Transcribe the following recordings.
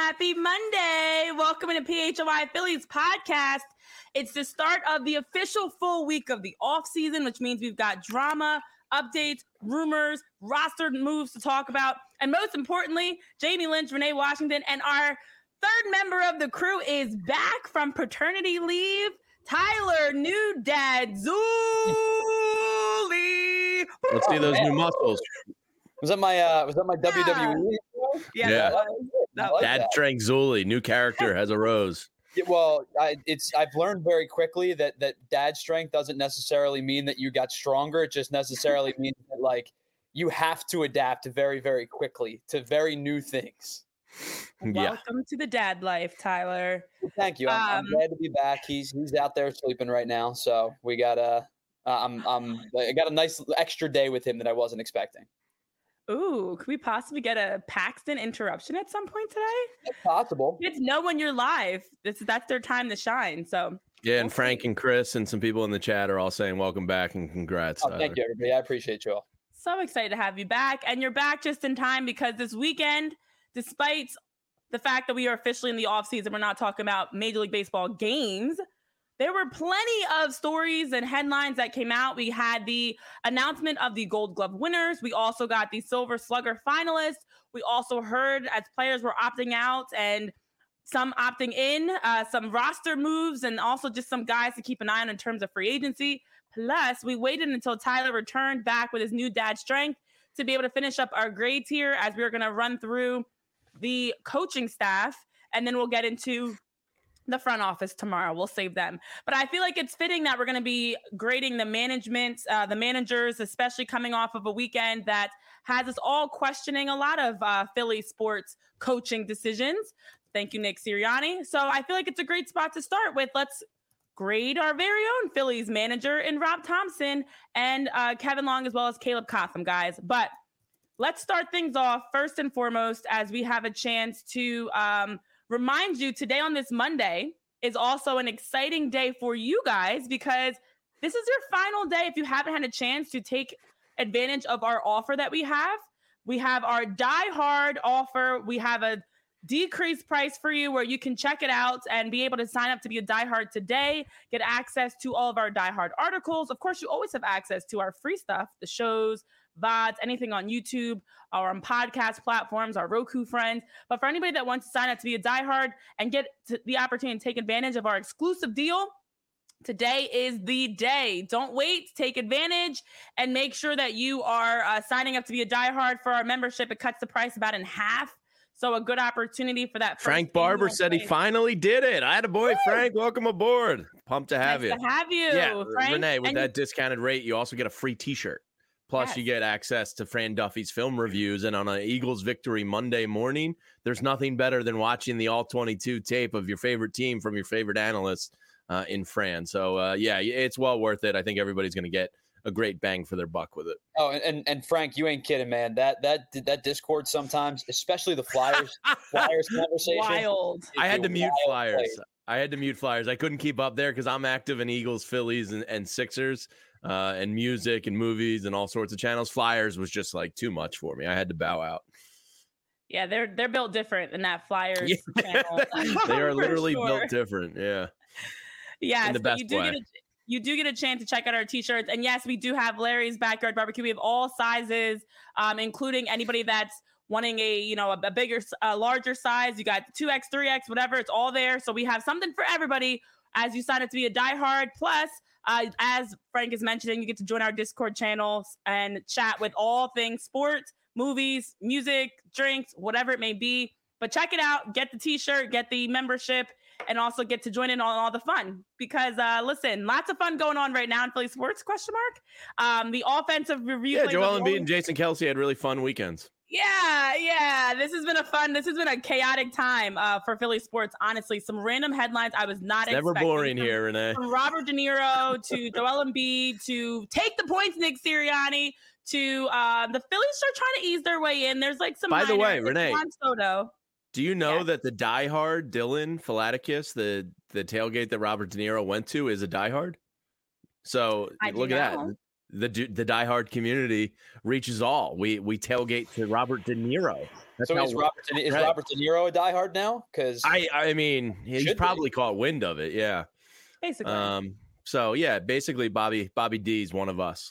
Happy Monday. Welcome to PHY Phillies podcast. It's the start of the official full week of the offseason, which means we've got drama, updates, rumors, roster moves to talk about. And most importantly, Jamie Lynch, Renee Washington, and our third member of the crew is back from paternity leave. Tyler, new dad, Zuli. Let's see those new muscles. Was that my WWE? Yeah. Dad Strength Zuli, new character, has a rose. Yeah, well, I've learned very quickly that dad strength doesn't necessarily mean that you got stronger. It just necessarily means that like you have to adapt very, very quickly to very new things. Welcome to the dad life, Tyler. Thank you. I'm glad to be back. He's out there sleeping right now, so we got I got a nice extra day with him that I wasn't expecting. Ooh, could we possibly get a Paxton interruption at some point today? It's possible. Kids know when you're live. That's their time to shine. So yeah, and Frank and Chris and some people in the chat are all saying welcome back and congrats. Thank you, everybody. I appreciate you all. So excited to have you back. And you're back just in time because this weekend, despite the fact that we are officially in the offseason, we're not talking about Major League Baseball games. There were plenty of stories and headlines that came out. We had the announcement of the Gold Glove winners. We also got the Silver Slugger finalists. We also heard as players were opting out and some opting in, some roster moves, and also just some guys to keep an eye on in terms of free agency. Plus, we waited until Tyler returned back with his new dad strength to be able to finish up our grades here as we were going to run through the coaching staff, and then we'll get into the front office tomorrow. We'll save them. But I feel like it's fitting that we're going to be grading the management, the managers, especially coming off of a weekend that has us all questioning a lot of Philly sports coaching decisions. Thank you, Nick Sirianni. So I feel like it's a great spot to start with. Let's grade our very own Phillies manager in Rob Thompson and Kevin Long, as well as Caleb Cotham, guys. But let's start things off first and foremost as we have a chance to remind you today on this Monday is also an exciting day for you guys because this is your final day. If you haven't had a chance to take advantage of our offer that we have our Die Hard offer. We have a decreased price for you where you can check it out and be able to sign up to be a Die Hard today, get access to all of our Die Hard articles. Of course, you always have access to our free stuff, the shows, VODs, anything on YouTube or on podcast platforms, our Roku friends. But for anybody that wants to sign up to be a diehard and get the opportunity to take advantage of our exclusive deal, today is the day. Don't wait. Take advantage and make sure that you are signing up to be a diehard for our membership. It cuts the price about in half. So a good opportunity for that. Frank Barber said he finally did it. I had a boy, Frank. Welcome aboard. Pumped to have you. Nice to have you, yeah, Frank. Renee, with that discounted rate, you also get a free T-shirt. Plus, you get access to Fran Duffy's film reviews. And on an Eagles victory Monday morning, there's nothing better than watching the All-22 tape of your favorite team from your favorite analyst in Fran. So, yeah, it's well worth it. I think everybody's going to get a great bang for their buck with it. Oh, and Frank, you ain't kidding, man. That Discord sometimes, especially the Flyers conversation. Wild. I had to mute Flyers. I couldn't keep up there because I'm active in Eagles, Phillies, and Sixers. And music and movies and all sorts of channels. Flyers was just like too much for me. I had to bow out. Yeah, they're built different than that Flyers channel. They are literally built different. Yeah. Yeah. In the best way. You do get a chance to check out our t-shirts. And yes, we do have Larry's Backyard Barbecue. We have all sizes, including anybody that's wanting a bigger, larger size. You got 2X, 3X, whatever. It's all there. So we have something for everybody as you sign up to be a diehard. Plus, as Frank is mentioning, you get to join our Discord channels and chat with all things sports, movies, music, drinks, whatever it may be. But check it out. Get the t-shirt, get the membership, and also get to join in on all the fun. Because, listen, lots of fun going on right now in Philly sports, ? The offensive review. Yeah, Joel Embiid and Jason Kelce had really fun weekends. Yeah. This has been a chaotic time for Philly sports. Honestly, some random headlines I was not expecting. Never boring here, Renee. From Robert De Niro to Joel Embiid to take the points, Nick Sirianni to the Phillies are trying to ease their way in. There's like some. By the way, like Renee, Juan Soto. Do you know that the diehard Dylan Philatakis, the tailgate that Robert De Niro went to, is a diehard? So look at that. the diehard community reaches all. We tailgate to Robert De Niro. So is Robert De Niro a diehard now? Because I mean, he's probably caught wind of it. Yeah, basically. So yeah, basically, Bobby D is one of us.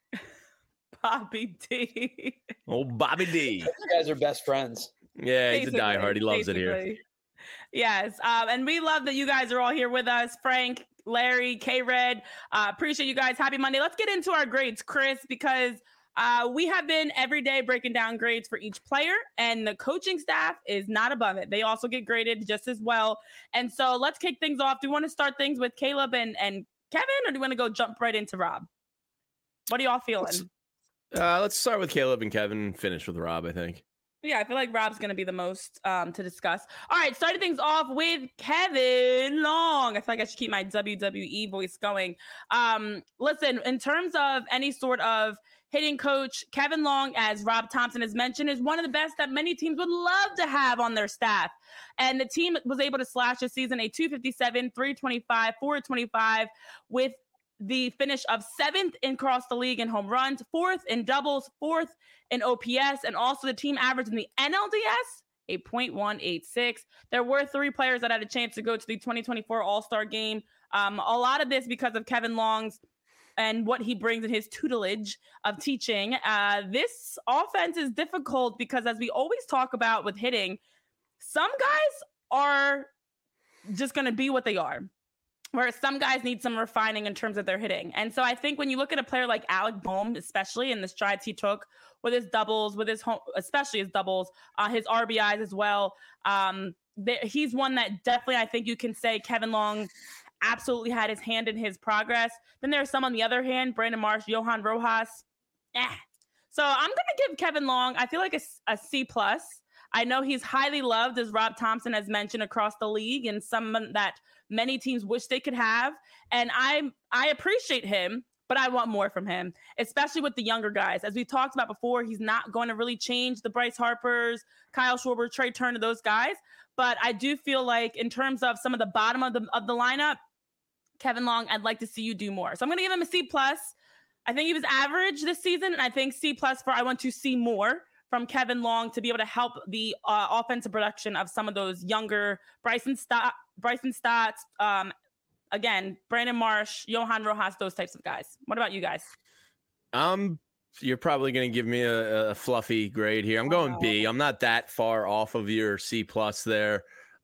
Bobby D. Oh, Bobby D. You guys are best friends. Yeah, he's a diehard. He loves it here. Yes, and we love that you guys are all here with us. Frank, Larry, K-Red, appreciate you guys. Happy Monday. Let's get into our grades, Chris, because we have been every day breaking down grades for each player, and the coaching staff is not above it. They also get graded just as well. And so let's kick things off. Do you want to start things with Caleb and Kevin, or do you want to go jump right into Rob? What are y'all feeling? Let's start with Caleb and Kevin and finish with Rob, I think. Yeah, I feel like Rob's going to be the most to discuss. All right, starting things off with Kevin Long. I feel like I should keep my WWE voice going. Listen, in terms of any sort of hitting coach, Kevin Long, as Rob Thompson has mentioned, is one of the best that many teams would love to have on their staff. And the team was able to slash this season a 257, 325, 425 with the finish of 7th across the league in home runs, 4th in doubles, 4th in OPS, and also the team average in the NLDS, a .186. There were 3 players that had a chance to go to the 2024 All-Star game. A lot of this because of Kevin Long's and what he brings in his tutelage of teaching. This offense is difficult because, as we always talk about with hitting, some guys are just going to be what they are, whereas some guys need some refining in terms of their hitting. And so I think when you look at a player like Alec Bohm, especially in the strides he took with his doubles, with his home, especially his doubles, his RBIs as well, he's one that definitely I think you can say Kevin Long absolutely had his hand in his progress. Then there's some on the other hand, Brandon Marsh, Johan Rojas. So I'm going to give Kevin Long, I feel like a C+. I know he's highly loved, as Rob Thompson has mentioned, across the league, and someone that many teams wish they could have. And I appreciate him, but I want more from him, especially with the younger guys. As we talked about before, he's not going to really change the Bryce Harpers, Kyle Schwarber, Trey Turner, those guys. But I do feel like in terms of some of the bottom of the lineup, Kevin Long, I'd like to see you do more. So I'm going to give him a C+. I think he was average this season, and I think C+ for I want to see more from Kevin Long to be able to help the offensive production of some of those younger Bryson Stotts, again, Brandon Marsh, Johan Rojas, those types of guys. What about you guys? You're probably going to give me a fluffy grade here. I'm going B. I'm not that far off of your C+ there.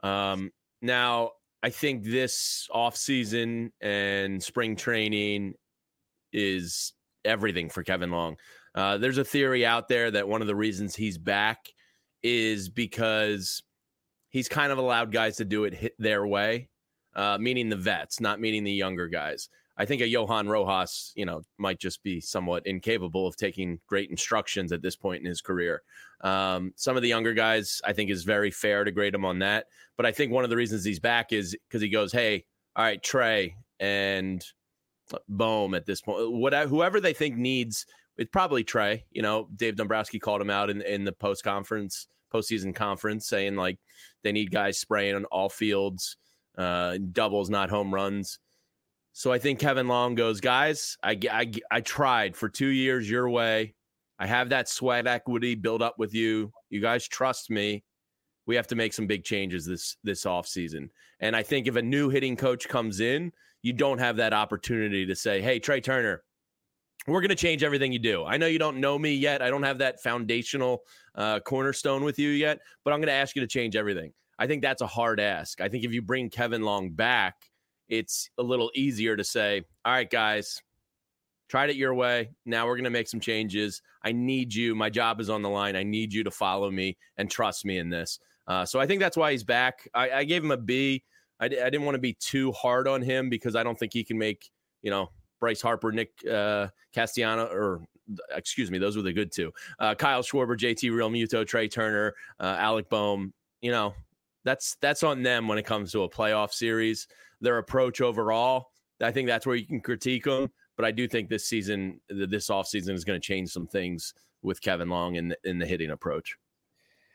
Now, I think this offseason and spring training is everything for Kevin Long. There's a theory out there that one of the reasons he's back is because he's kind of allowed guys to do it their way, meaning the vets, not meaning the younger guys. I think a Johan Rojas, might just be somewhat incapable of taking great instructions at this point in his career. Some of the younger guys, I think, is very fair to grade him on that. But I think one of the reasons he's back is because he goes, hey, all right, Trey and Bohm at this point, whoever they think needs, it's probably Trey. Dave Dombrowski called him out in the postseason conference, saying like they need guys spraying on all fields, doubles, not home runs. So I think Kevin Long goes, guys, I tried for 2 years your way. I have that sweat equity built up with you. You guys trust me. We have to make some big changes this offseason. And I think if a new hitting coach comes in, you don't have that opportunity to say, hey, Trey Turner, we're going to change everything you do. I know you don't know me yet. I don't have that foundational cornerstone with you yet, but I'm going to ask you to change everything. I think that's a hard ask. I think if you bring Kevin Long back, it's a little easier to say, all right, guys, tried it your way. Now we're going to make some changes. I need you. My job is on the line. I need you to follow me and trust me in this. So I think that's why he's back. I gave him a B. I didn't want to be too hard on him because I don't think he can make, Bryce Harper, Nick Castellano, those were the good two. Kyle Schwarber, JT Realmuto, Trey Turner, Alec Bohm. That's on them when it comes to a playoff series. Their approach overall, I think that's where you can critique them. But I do think this offseason is going to change some things with Kevin Long in the hitting approach.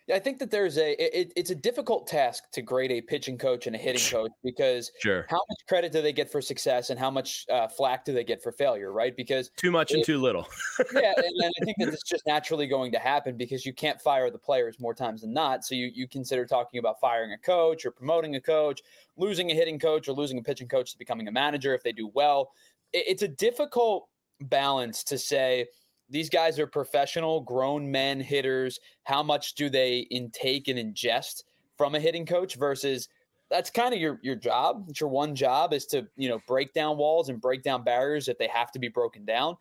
I think that there's it's a difficult task to grade a pitching coach and a hitting coach because how much credit do they get for success and how much flack do they get for failure, right? Because too much and too little. Yeah, and I think that it's just naturally going to happen because you can't fire the players more times than not. So you consider talking about firing a coach or promoting a coach, losing a hitting coach or losing a pitching coach to becoming a manager if they do well. It's a difficult balance to say, these guys are professional, grown men hitters. How much do they intake and ingest from a hitting coach versus that's kind of your job. It's your one job is to, break down walls and break down barriers if they have to be broken down.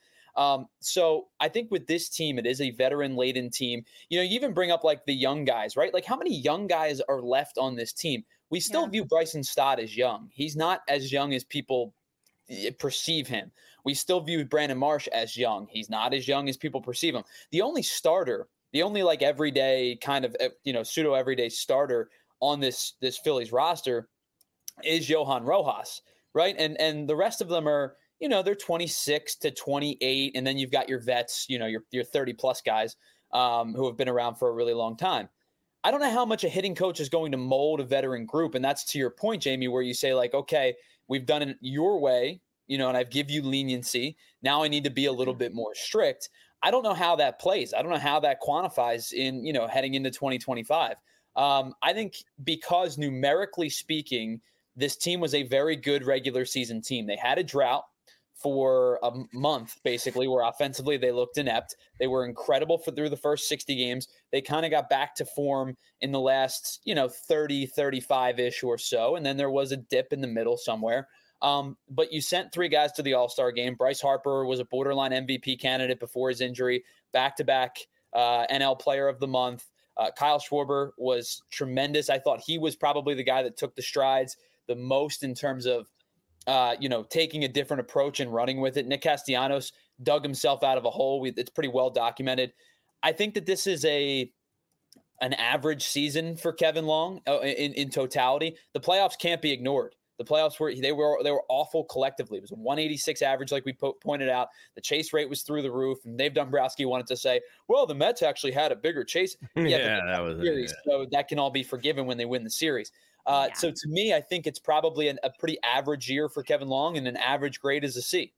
So I think with this team, it is a veteran-laden team. You even bring up like the young guys, right? Like how many young guys are left on this team? We still view Bryson Stott as young. He's not as young as people perceive him. We still view Brandon Marsh as young. He's not as young as people perceive him. The only starter, the only like everyday kind of, pseudo everyday starter on this Phillies roster is Johan Rojas, right? And the rest of them are, they're 26 to 28. And then you've got your vets, your 30 plus guys who have been around for a really long time. I don't know how much a hitting coach is going to mold a veteran group. And that's to your point, Jamie, where you say like, okay, we've done it your way, and I've give you leniency. Now I need to be a little bit more strict. I don't know how that plays. I don't know how that quantifies in, heading into 2025. I think because numerically speaking, this team was a very good regular season team. They had a drought for a month, basically, where offensively they looked inept. They were incredible through the first 60 games. They kind of got back to form in the last, 30, 35-ish or so. And then there was a dip in the middle somewhere. But you sent 3 guys to the All-Star game. Bryce Harper was a borderline MVP candidate before his injury, back-to-back NL Player of the Month. Kyle Schwarber was tremendous. I thought he was probably the guy that took the strides the most in terms of, taking a different approach and running with it. Nick Castellanos dug himself out of a hole. It's pretty well documented. I think that this is an average season for Kevin Long in totality. The playoffs can't be ignored. The playoffs were awful collectively. It was a 186 average, like we pointed out. The chase rate was through the roof, and Dave Dombrowski wanted to say, "Well, the Mets actually had a bigger chase." Yeah, that was series, so that can all be forgiven when they win the series. So to me, I think it's probably a pretty average year for Kevin Long, and an average grade is a C.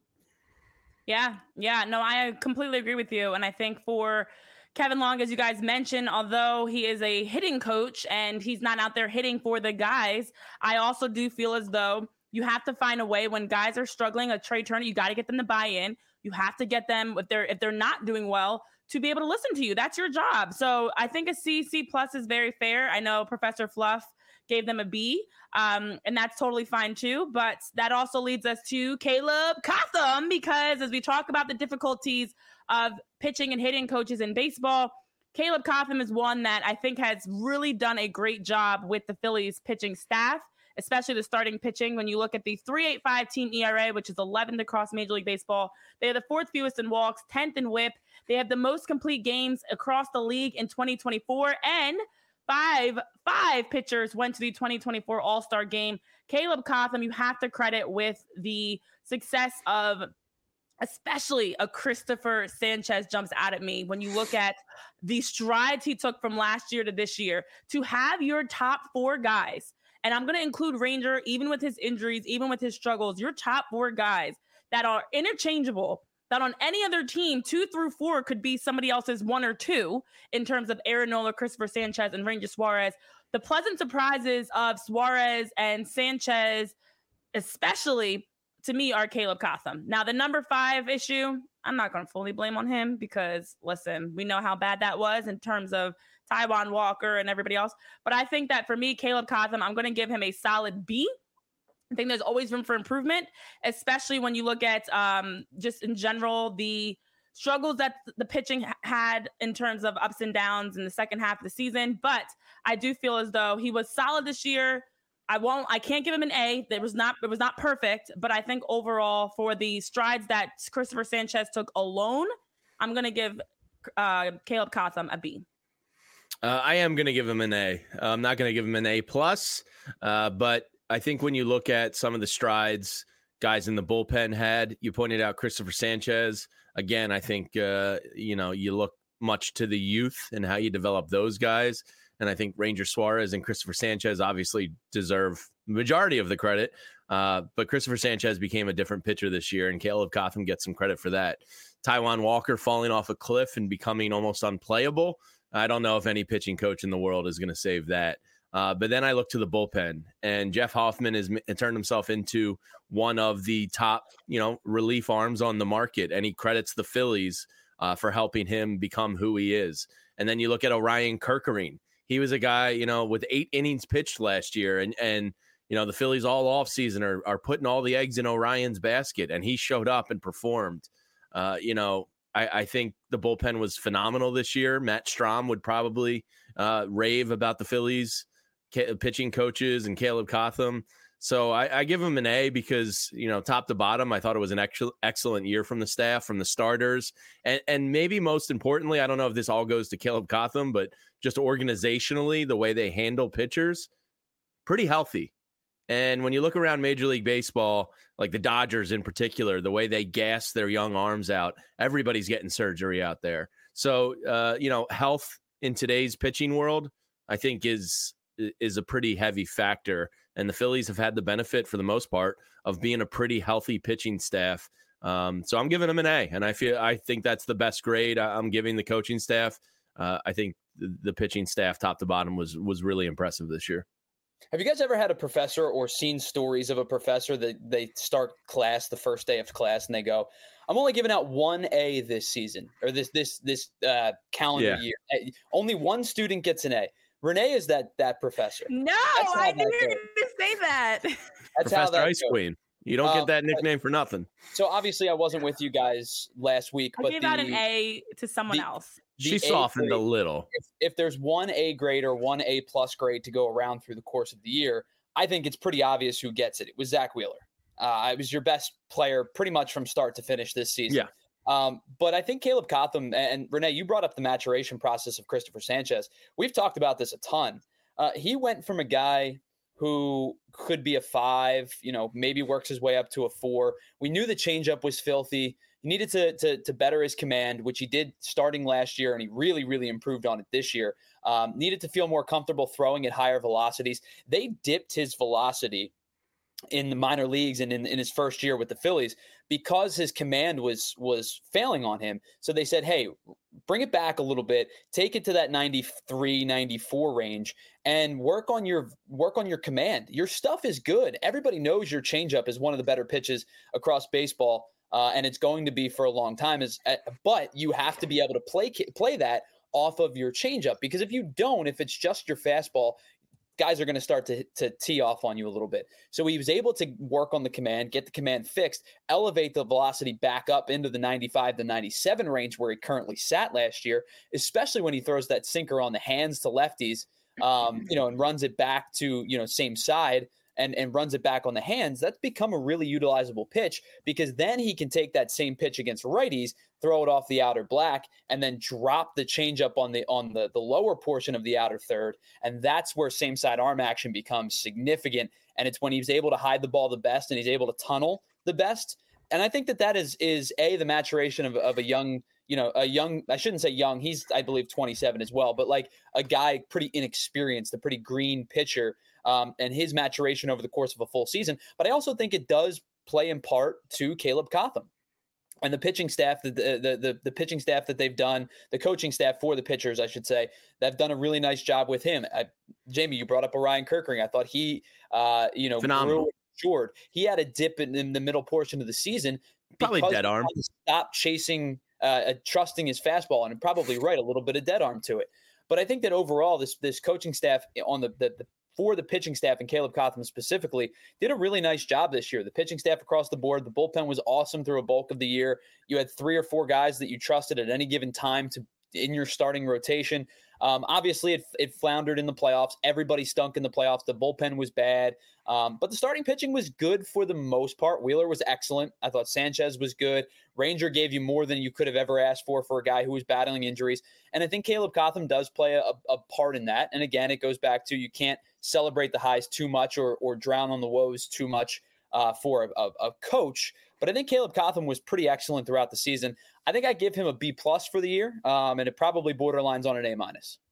Yeah, no, I completely agree with you, and I think for Kevin Long, as you guys mentioned, although he is a hitting coach and he's not out there hitting for the guys, I also do feel as though you have to find a way when guys are struggling, a Trey Turner, you got to get them to buy in. You have to get them, if they're not doing well, to be able to listen to you. That's your job. So I think a C+ is very fair. I know Professor Fluff gave them a B, and that's totally fine too. But that also leads us to Caleb Cotham, because as we talk about the difficulties of pitching and hitting coaches in baseball, Caleb Cotham is one that I think has really done a great job with the Phillies pitching staff, especially the starting pitching. When you look at the 3.85 team ERA, which is 11th across Major League Baseball, they are the 4th fewest in walks, 10th in WHIP. They have the most complete games across the league in 2024, and five pitchers went to the 2024 All-Star game. Caleb Cotham, you have to credit with the success of especially a Christopher Sanchez jumps out at me when you look at the strides he took from last year to this year to have your top 4 guys. And I'm going to include Ranger, even with his injuries, even with his struggles, your top 4 guys that are interchangeable, that on any other team, 2 through 4 could be somebody else's 1 or 2 in terms of Aaron Nola, Christopher Sanchez, and Ranger Suarez. The pleasant surprises of Suarez and Sanchez, especially to me, are Caleb Cotham. Now, the number 5 issue, I'm not going to fully blame on him because, listen, we know how bad that was in terms of Taijuan Walker and everybody else. But I think that for me, Caleb Cotham, I'm going to give him a solid B. I think there's always room for improvement, especially when you look at just in general the struggles that the pitching had in terms of ups and downs in the second half of the season. But I do feel as though he was solid this year. I can't give him an A. It was not perfect, but I think overall for the strides that Christopher Sanchez took alone, I'm going to give Caleb Cotham a B. I am going to give him an A. I'm not going to give him an A+, but I think when you look at some of the strides guys in the bullpen had, you pointed out Christopher Sanchez. Again, I think, you look much to the youth and how you develop those guys. And I think Ranger Suarez and Christopher Sanchez obviously deserve the majority of the credit. But Christopher Sanchez became a different pitcher this year, and Caleb Cotham gets some credit for that. Taijuan Walker falling off a cliff and becoming almost unplayable. I don't know if any pitching coach in the world is going to save that. But then I look to the bullpen, and Jeff Hoffman has turned himself into one of the top, relief arms on the market. And he credits the Phillies for helping him become who he is. And then you look at Orion Kerkering. He was a guy, with 8 innings pitched last year, and the Phillies all off season are putting all the eggs in Orion's basket, and he showed up and performed. I think the bullpen was phenomenal this year. Matt Strahm would probably rave about the Phillies pitching coaches and Caleb Cotham. So I give him an A because, top to bottom, I thought it was an excellent year from the staff, from the starters. And maybe most importantly, I don't know if this all goes to Caleb Cotham, but just organizationally, the way they handle pitchers, pretty healthy. And when you look around Major League Baseball, like the Dodgers in particular, the way they gas their young arms out, everybody's getting surgery out there. So, health in today's pitching world, I think is a pretty heavy factor. And the Phillies have had the benefit, for the most part, of being a pretty healthy pitching staff. So I'm giving them an A, and I think that's the best grade I'm giving the coaching staff. I think the pitching staff, top to bottom, was really impressive this year. Have you guys ever had a professor or seen stories of a professor that they start class the first day of class and they go, I'm only giving out 1 A this season or this calendar year. Only one student gets an A. Renee is that professor. No, I knew you were going to say that. That's Professor Ice Queen. You don't get that nickname for nothing. So obviously I wasn't with you guys last week. I gave out an A to someone else. She softened a little. If there's 1 A grade or 1 A plus grade to go around through the course of the year, I think it's pretty obvious who gets it. It was Zach Wheeler. It was your best player pretty much from start to finish this season. Yeah. But I think Caleb Cotham and Renee, you brought up the maturation process of Christopher Sanchez. We've talked about this a ton. He went from a guy who could be a 5, maybe works his way up to a 4. We knew the changeup was filthy. He needed to better his command, which he did starting last year, and he really, really improved on it this year. Needed to feel more comfortable throwing at higher velocities. They dipped his velocity in the minor leagues and in his first year with the Phillies because his command was failing on him. So they said, hey, bring it back a little bit, take it to that 93, 94 range and work on your command. Your stuff is good. Everybody knows your changeup is one of the better pitches across baseball. And it's going to be for a long time. But you have to be able to play that off of your changeup, because if you don't, if it's just your fastball, guys are going to start to tee off on you a little bit. So he was able to work on the command, get the command fixed, elevate the velocity back up into the 95 to 97 range where he currently sat last year, especially when he throws that sinker on the hands to lefties, and runs it back to, same side and runs it back on the hands. That's become a really utilizable pitch, because then he can take that same pitch against righties, throw it off the outer black, and then drop the changeup on the lower portion of the outer third. And that's where same side arm action becomes significant. And it's when he's able to hide the ball the best and he's able to tunnel the best. And I think that is the maturation of a young, I shouldn't say young, he's, I believe, 27 as well, but like a guy pretty inexperienced, a pretty green pitcher, and his maturation over the course of a full season. But I also think it does play in part to Caleb Cotham and the pitching staff, the pitching staff that they've done, the coaching staff for the pitchers, I should say, they've done a really nice job with him. Jamie, you brought up Orion Kerkering. I thought he, phenomenal. Grew. He had a dip in the middle portion of the season. Probably dead arm. Stop chasing, trusting his fastball, and probably a little bit of dead arm to it. But I think that overall, this coaching staff on for the pitching staff and Caleb Cotham specifically did a really nice job this year. The pitching staff across the board, the bullpen was awesome through a bulk of the year. You had 3 or 4 guys that you trusted at any given time in your starting rotation. Obviously, it floundered in the playoffs. Everybody stunk in the playoffs. The bullpen was bad. But the starting pitching was good for the most part. Wheeler was excellent. I thought Sanchez was good. Ranger gave you more than you could have ever asked for a guy who was battling injuries. And I think Caleb Cotham does play a part in that. And again, it goes back to you can't celebrate the highs too much or drown on the woes too much for a coach. But I think Caleb Cotham was pretty excellent throughout the season. I think I give him a B+ for the year, and it probably borderlines on an A-.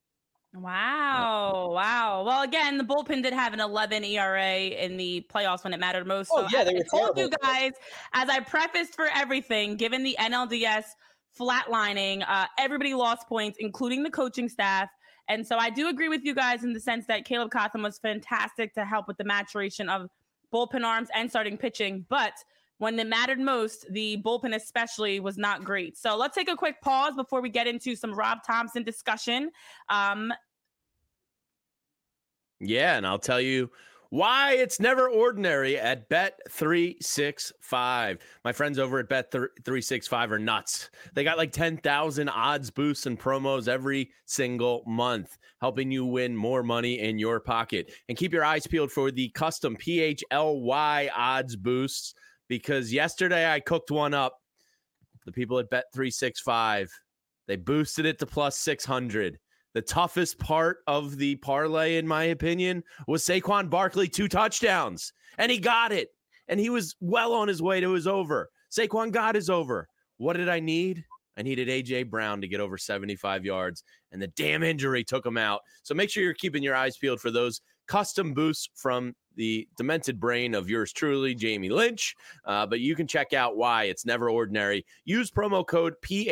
Wow. Well, again, the bullpen did have an 11 ERA in the playoffs when it mattered most. Oh, yeah, they were I told terrible. you guys, as I prefaced for everything, given the NLDS flatlining, everybody lost points, including the coaching staff. And so I do agree with you guys in the sense that Caleb Cotham was fantastic to help with the maturation of bullpen arms and starting pitching. But when it mattered most, the bullpen especially was not great. So let's take a quick pause before we get into some Rob Thompson discussion. Yeah, and I'll tell you why it's never ordinary at Bet365. My friends over at Bet365 are nuts. They got like 10,000 odds boosts and promos every single month, helping you win more money in your pocket. And keep your eyes peeled for the custom PHLY odds boosts, because yesterday I cooked one up. The people at Bet365, they boosted it to plus 600. The toughest part of the parlay, in my opinion, was Saquon Barkley 2 touchdowns. And he got it. And he was well on his way to his over. Saquon got his over. What did I need? I needed A.J. Brown to get over 75 yards. And the damn injury took him out. So make sure you're keeping your eyes peeled for those custom boosts from the demented brain of yours truly, Jamie Lynch. But you can check out why it's never ordinary. Use promo code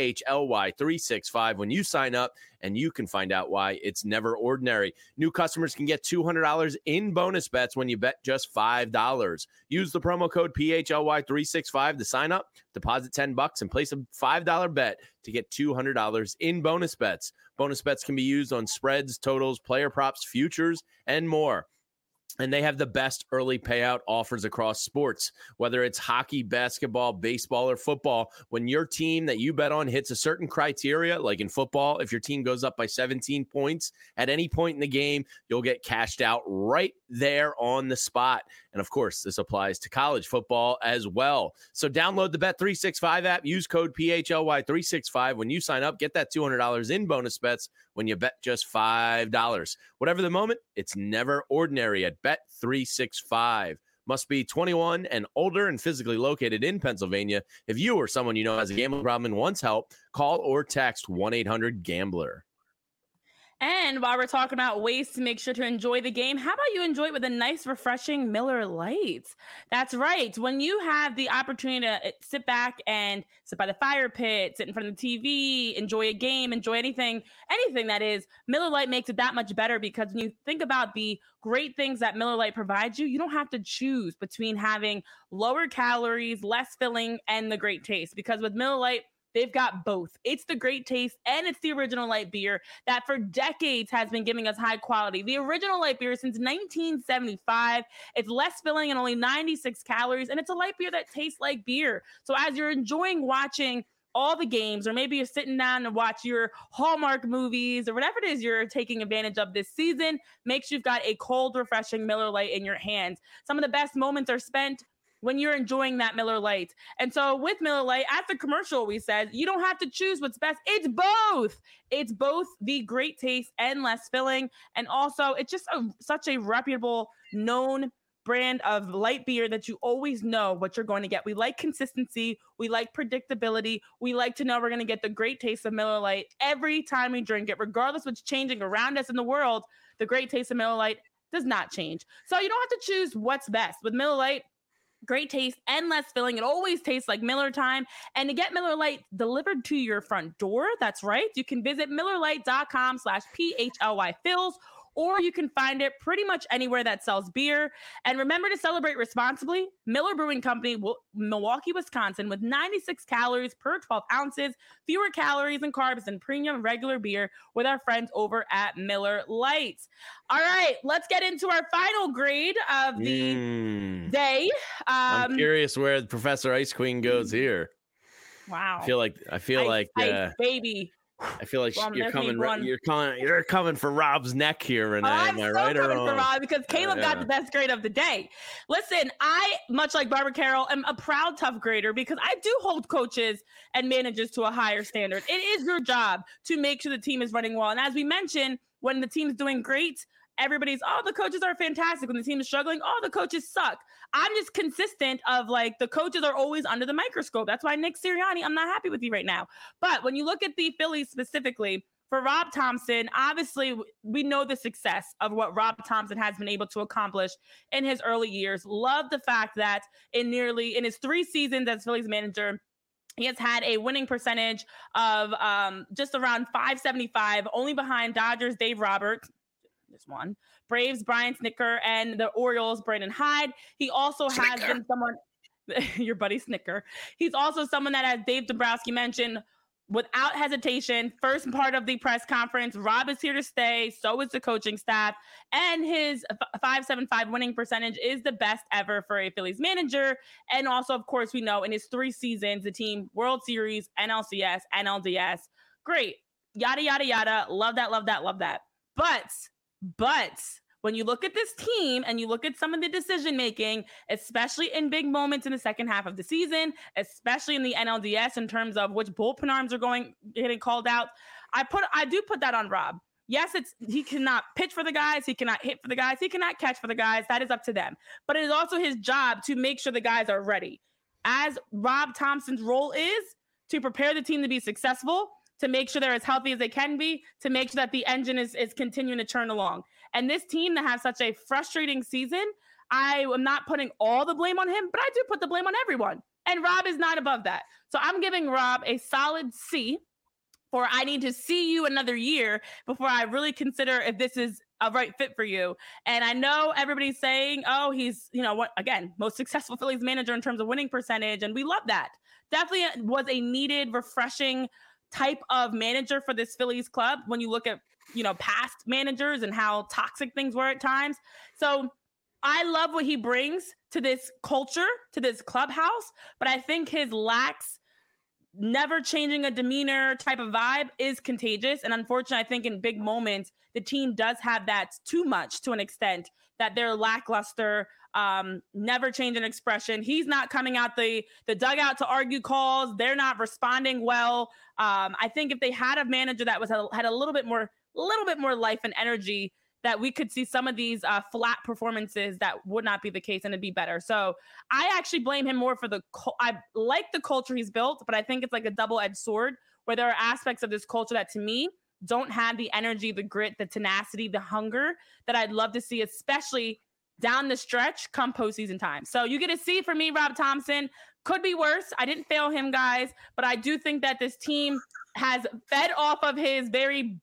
PHLY365 when you sign up, and you can find out why it's never ordinary. New customers can get $200 in bonus bets when you bet just $5. Use the promo code PHLY365 to sign up, deposit $10, and place a $5 bet to get $200 in bonus bets. Bonus bets can be used on spreads, totals, player props, futures, and more. And they have the best early payout offers across sports, whether it's hockey, basketball, baseball, or football. When your team that you bet on hits a certain criteria, like in football, if your team goes up by 17 points at any point in the game, you'll get cashed out right there on the spot. And of course, this applies to college football as well. So download the Bet365 app, use code PHLY365 when you sign up, get that $200 in bonus bets when you bet just $5. Whatever the moment, it's never ordinary at Bet365. Must be 21 and older and physically located in Pennsylvania. If you or someone you know has a gambling problem and wants help, call or text 1-800-GAMBLER. And while we're talking about ways to make sure to enjoy the game, how about you enjoy it with a nice, refreshing Miller Lite? That's right. When you have the opportunity to sit back and sit by the fire pit, sit in front of the TV, enjoy a game, enjoy anything that is, Miller Lite makes it that much better, because when you think about the great things that Miller Lite provides you, you don't have to choose between having lower calories, less filling, and the great taste. Because with Miller Lite, they've got both. It's the great taste, and it's the original light beer that for decades has been giving us high quality. The original light beer since 1975. It's less filling and only 96 calories, and it's a light beer that tastes like beer. So as you're enjoying watching all the games, or maybe you're sitting down to watch your Hallmark movies or whatever it is you're taking advantage of this season, make sure you've got a cold, refreshing Miller Lite in your hands. Some of the best moments are spent when you're enjoying that Miller Lite. And so with Miller Lite, at the commercial, we said, you don't have to choose what's best. It's both. It's both the great taste and less filling. And also, it's just such a reputable, known brand of light beer that you always know what you're going to get. We like consistency. We like predictability. We like to know we're going to get the great taste of Miller Lite every time we drink it, regardless of what's changing around us in the world. The great taste of Miller Lite does not change. So you don't have to choose what's best. With Miller Lite, great taste and less filling. It always tastes like Miller time. And to get Miller Lite delivered to your front door, that's right, you can visit MillerLite.com/PHLYFills, or you can find it pretty much anywhere that sells beer. And remember to celebrate responsibly. Miller Brewing Company, Milwaukee, Wisconsin, with 96 calories per 12 ounces, fewer calories and carbs than premium regular beer, with our friends over at Miller Lite. All right, let's get into our final grade of the day. I'm curious where Professor Ice Queen goes here. Wow. I feel like Ice, baby. I feel like you're coming for Rob's neck here, Renee. Am I right or wrong? For Rob, because Caleb got the best grade of the day. Listen, I, much like Barbara Carroll, am a proud tough grader, because I do hold coaches and managers to a higher standard. It is your job to make sure the team is running well. And as we mentioned, when the team's doing great, everybody's, oh, the coaches are fantastic. When the team is struggling, oh, the coaches suck. I'm just consistent of like the coaches are always under the microscope. That's why Nick Sirianni, I'm not happy with you right now. But when you look at the Phillies specifically, for Rob Thomson, obviously, we know the success of what Rob Thomson has been able to accomplish in his early years. Love the fact that in his 3 seasons as Phillies manager, he has had a winning percentage of just around .575, only behind Dodgers Dave Roberts, just one, Braves Brian Snitker, and the Orioles Brandon Hyde. He also has been someone, your buddy Snitker. He's also someone that, as Dave Dombrowski mentioned, without hesitation, first part of the press conference, Rob is here to stay. So is the coaching staff. And his .575 winning percentage is the best ever for a Phillies manager. And also, of course, we know in his 3 seasons, the team World Series, NLCS, NLDS. Great. Yada, yada, yada. Love that, love that, love that. But when you look at this team and you look at some of the decision making, especially in big moments in the second half of the season, especially in the NLDS in terms of which bullpen arms are getting called out, I do put that on Rob. Yes, he cannot pitch for the guys, he cannot hit for the guys, he cannot catch for the guys. That is up to them. But it is also his job to make sure the guys are ready. As Rob Thomson's role is to prepare the team to be successful, to make sure they're as healthy as they can be, to make sure that the engine is continuing to churn along. And this team that has such a frustrating season, I am not putting all the blame on him, but I do put the blame on everyone. And Rob is not above that. So I'm giving Rob a solid C for I need to see you another year before I really consider if this is a right fit for you. And I know everybody's saying, oh, he's, most successful Phillies manager in terms of winning percentage. And we love that. Definitely was a needed, refreshing type of manager for this Phillies club when you look at past managers and how toxic things were at times. So I love what he brings to this culture, to this clubhouse, but I think his never changing a demeanor type of vibe is contagious. And unfortunately, I think in big moments, the team does have that too much to an extent that they're lackluster, never change an expression. He's not coming out the dugout to argue calls. They're not responding well. I think if they had a manager that had a little bit more life and energy, that we could see some of these flat performances that would not be the case and it'd be better. So I actually blame him more for I like the culture he's built, but I think it's like a double-edged sword where there are aspects of this culture that to me don't have the energy, the grit, the tenacity, the hunger that I'd love to see, especially down the stretch come postseason time. So you get a C for me, Rob Thomson. Could be worse. I didn't fail him, guys, but I do think that this team has fed off of his very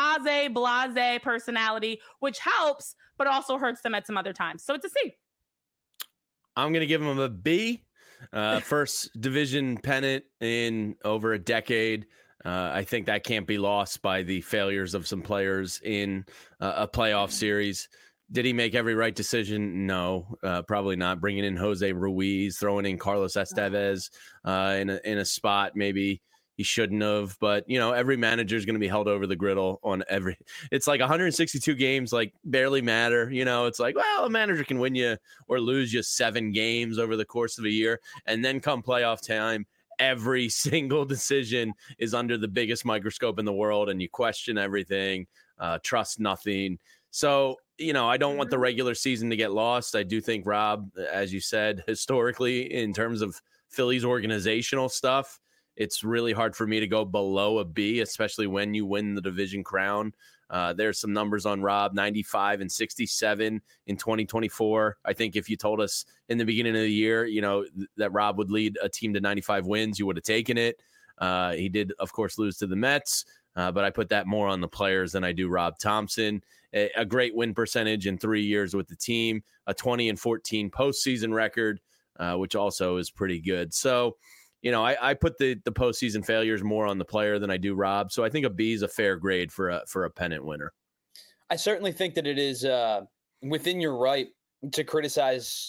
blase personality, which helps, but also hurts them at some other times. So it's a C. I'm going to give him a B. First division pennant in over a decade. I think that can't be lost by the failures of some players in a playoff series. Did he make every right decision? No, probably not. Bringing in Jose Ruiz, throwing in Carlos Estevez in a spot maybe he shouldn't have. But, every manager is going to be held over the griddle on every – it's like 162 games, like, barely matter. It's like, well, a manager can win you or lose you 7 games over the course of a year. And then come playoff time, every single decision is under the biggest microscope in the world, and you question everything, trust nothing. So, I don't want the regular season to get lost. I do think Rob, as you said, historically, in terms of Phillies organizational stuff, it's really hard for me to go below a B, especially when you win the division crown. There's some numbers on Rob, 95 and 67 in 2024. I think if you told us in the beginning of the year, that Rob would lead a team to 95 wins, you would have taken it. He did, of course, lose to the Mets, but I put that more on the players than I do Rob Thomson. A great win percentage in 3 years with the team, a 20-14 postseason record, which also is pretty good. So, I put the postseason failures more on the player than I do Rob. So I think a B is a fair grade for a pennant winner. I certainly think that it is within your right to criticize,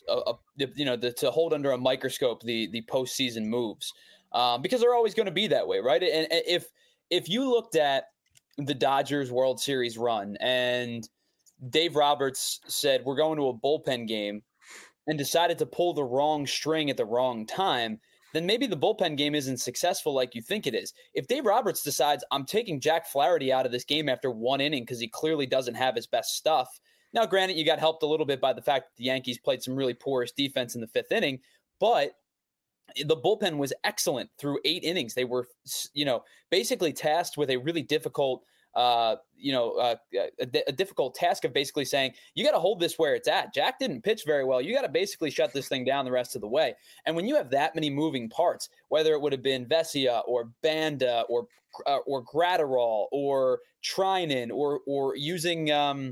to hold under a microscope the postseason moves, because they're always going to be that way, right? And if you looked at the Dodgers World Series run and Dave Roberts said, we're going to a bullpen game, and decided to pull the wrong string at the wrong time, then maybe the bullpen game isn't successful like you think it is. If Dave Roberts decides I'm taking Jack Flaherty out of this game after 1 inning because he clearly doesn't have his best stuff, Now, granted, you got helped a little bit by the fact that the Yankees played some really porous defense in the 5th inning, but the bullpen was excellent through 8 innings. They were, basically tasked with a really difficult, a difficult task of basically saying, you got to hold this where it's at. Jack didn't pitch very well. You got to basically shut this thing down the rest of the way. And when you have that many moving parts, whether it would have been Vesia or Banda or Gratterall or Trinan or using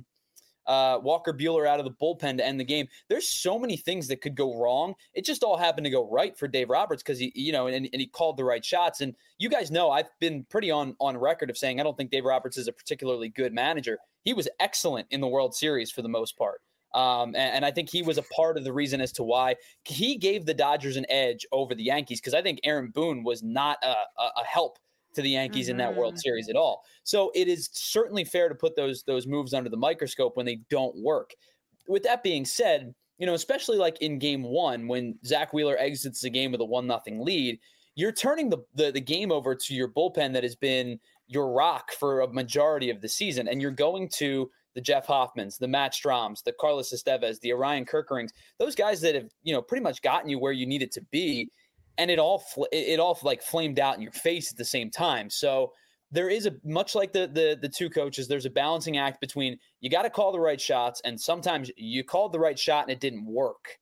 Walker Buehler out of the bullpen to end the game. There's so many things that could go wrong. It just all happened to go right for Dave Roberts because he called the right shots. And you guys know I've been pretty on record of saying I don't think Dave Roberts is a particularly good manager. He was excellent in the World Series for the most part. And I think he was a part of the reason as to why he gave the Dodgers an edge over the Yankees, because I think Aaron Boone was not a help to the Yankees in that World Series at all. So it is certainly fair to put those moves under the microscope when they don't work. With that being said, especially like in game 1, when Zach Wheeler exits the game with a 1-0 lead, you're turning the game over to your bullpen that has been your rock for a majority of the season. And you're going to the Jeff Hoffmans, the Matt Stroms, the Carlos Estevez, the Orion Kerkerings, those guys that have, pretty much gotten you where you need it to be. And it all like flamed out in your face at the same time. So there is much like the two coaches, there's a balancing act between you got to call the right shots, and sometimes you called the right shot and it didn't work.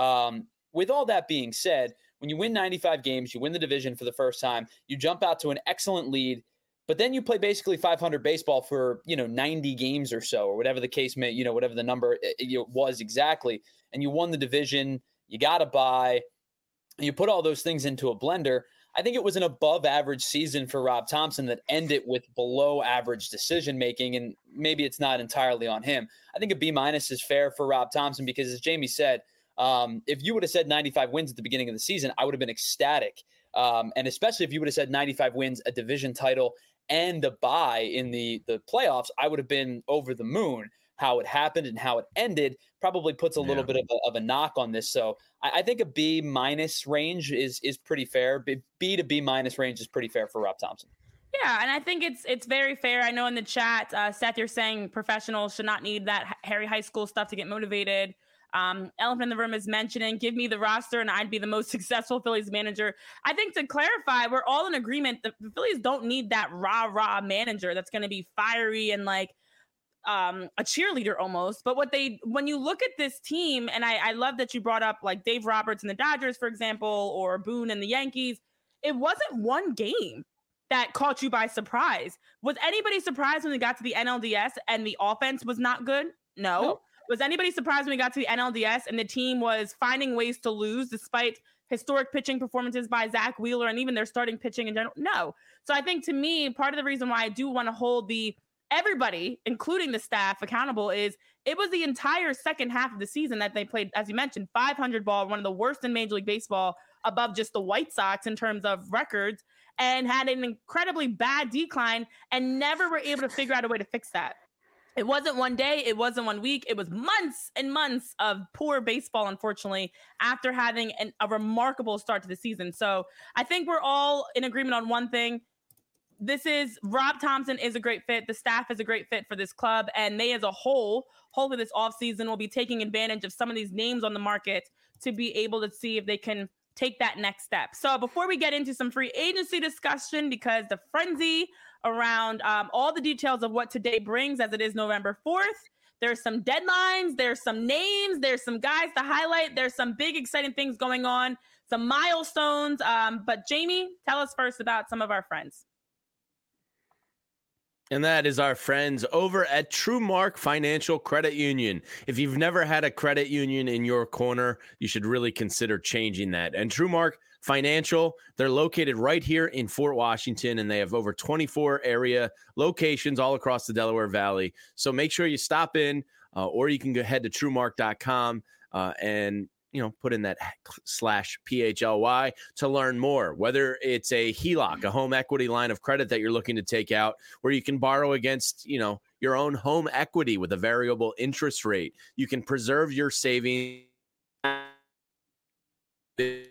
With all that being said, when you win 95 games, you win the division for the first time, you jump out to an excellent lead, but then you play basically 500 baseball for 90 games or so, or whatever the case may, whatever the number was exactly, and you won the division. You got to buy. You put all those things into a blender. I think it was an above average season for Rob Thomson that ended with below average decision making, and maybe it's not entirely on him. I think a B- is fair for Rob Thomson because, as Jamie said, if you would have said 95 wins at the beginning of the season, I would have been ecstatic. And especially if you would have said 95 wins, a division title, and a bye in the playoffs, I would have been over the moon. How it happened and how it ended probably puts a little bit of a knock on this. So I think a B- range is pretty fair. B to B- range is pretty fair for Rob Thomson. Yeah, and I think it's very fair. I know in the chat, Seth, you're saying professionals should not need that Harry High School stuff to get motivated. Elephant in the Room is mentioning, give me the roster and I'd be the most successful Phillies manager. I think to clarify, we're all in agreement that the Phillies don't need that rah-rah manager that's going to be fiery and like a cheerleader almost. But when you look at this team, and I love that you brought up like Dave Roberts and the Dodgers, for example, or Boone and the Yankees, it wasn't one game that caught you by surprise. Was anybody surprised when we got to the NLDS and the offense was not good? No. Was anybody surprised when we got to the NLDS and the team was finding ways to lose despite historic pitching performances by Zach Wheeler and even their starting pitching in general? No. So I think to me, part of the reason why I do want to hold everybody, including the staff, accountable is it was the entire second half of the season that they played, as you mentioned, 500 ball, one of the worst in Major League Baseball, above just the White Sox in terms of records, and had an incredibly bad decline and never were able to figure out a way to fix that. It wasn't one day. It wasn't 1 week. It was months and months of poor baseball, unfortunately, after having a remarkable start to the season. So I think we're all in agreement on one thing. Rob Thomson is a great fit. The staff is a great fit for this club. And they as a whole, hopefully this offseason will be taking advantage of some of these names on the market to be able to see if they can take that next step. So before we get into some free agency discussion, because the frenzy around all the details of what today brings, as it is November 4th, there's some deadlines, there's some names, there's some guys to highlight, there's some big exciting things going on, some milestones. But Jamie, tell us first about some of our friends. And that is our friends over at TrueMark Financial Credit Union. If you've never had a credit union in your corner, you should really consider changing that. And TrueMark Financial, they're located right here in Fort Washington, and they have over 24 area locations all across the Delaware Valley. So make sure you stop in, or you can go ahead to TrueMark.com and put in that /PHLY to learn more, whether it's a HELOC, a home equity line of credit that you're looking to take out, where you can borrow against, your own home equity with a variable interest rate. You can preserve your savings. Hey,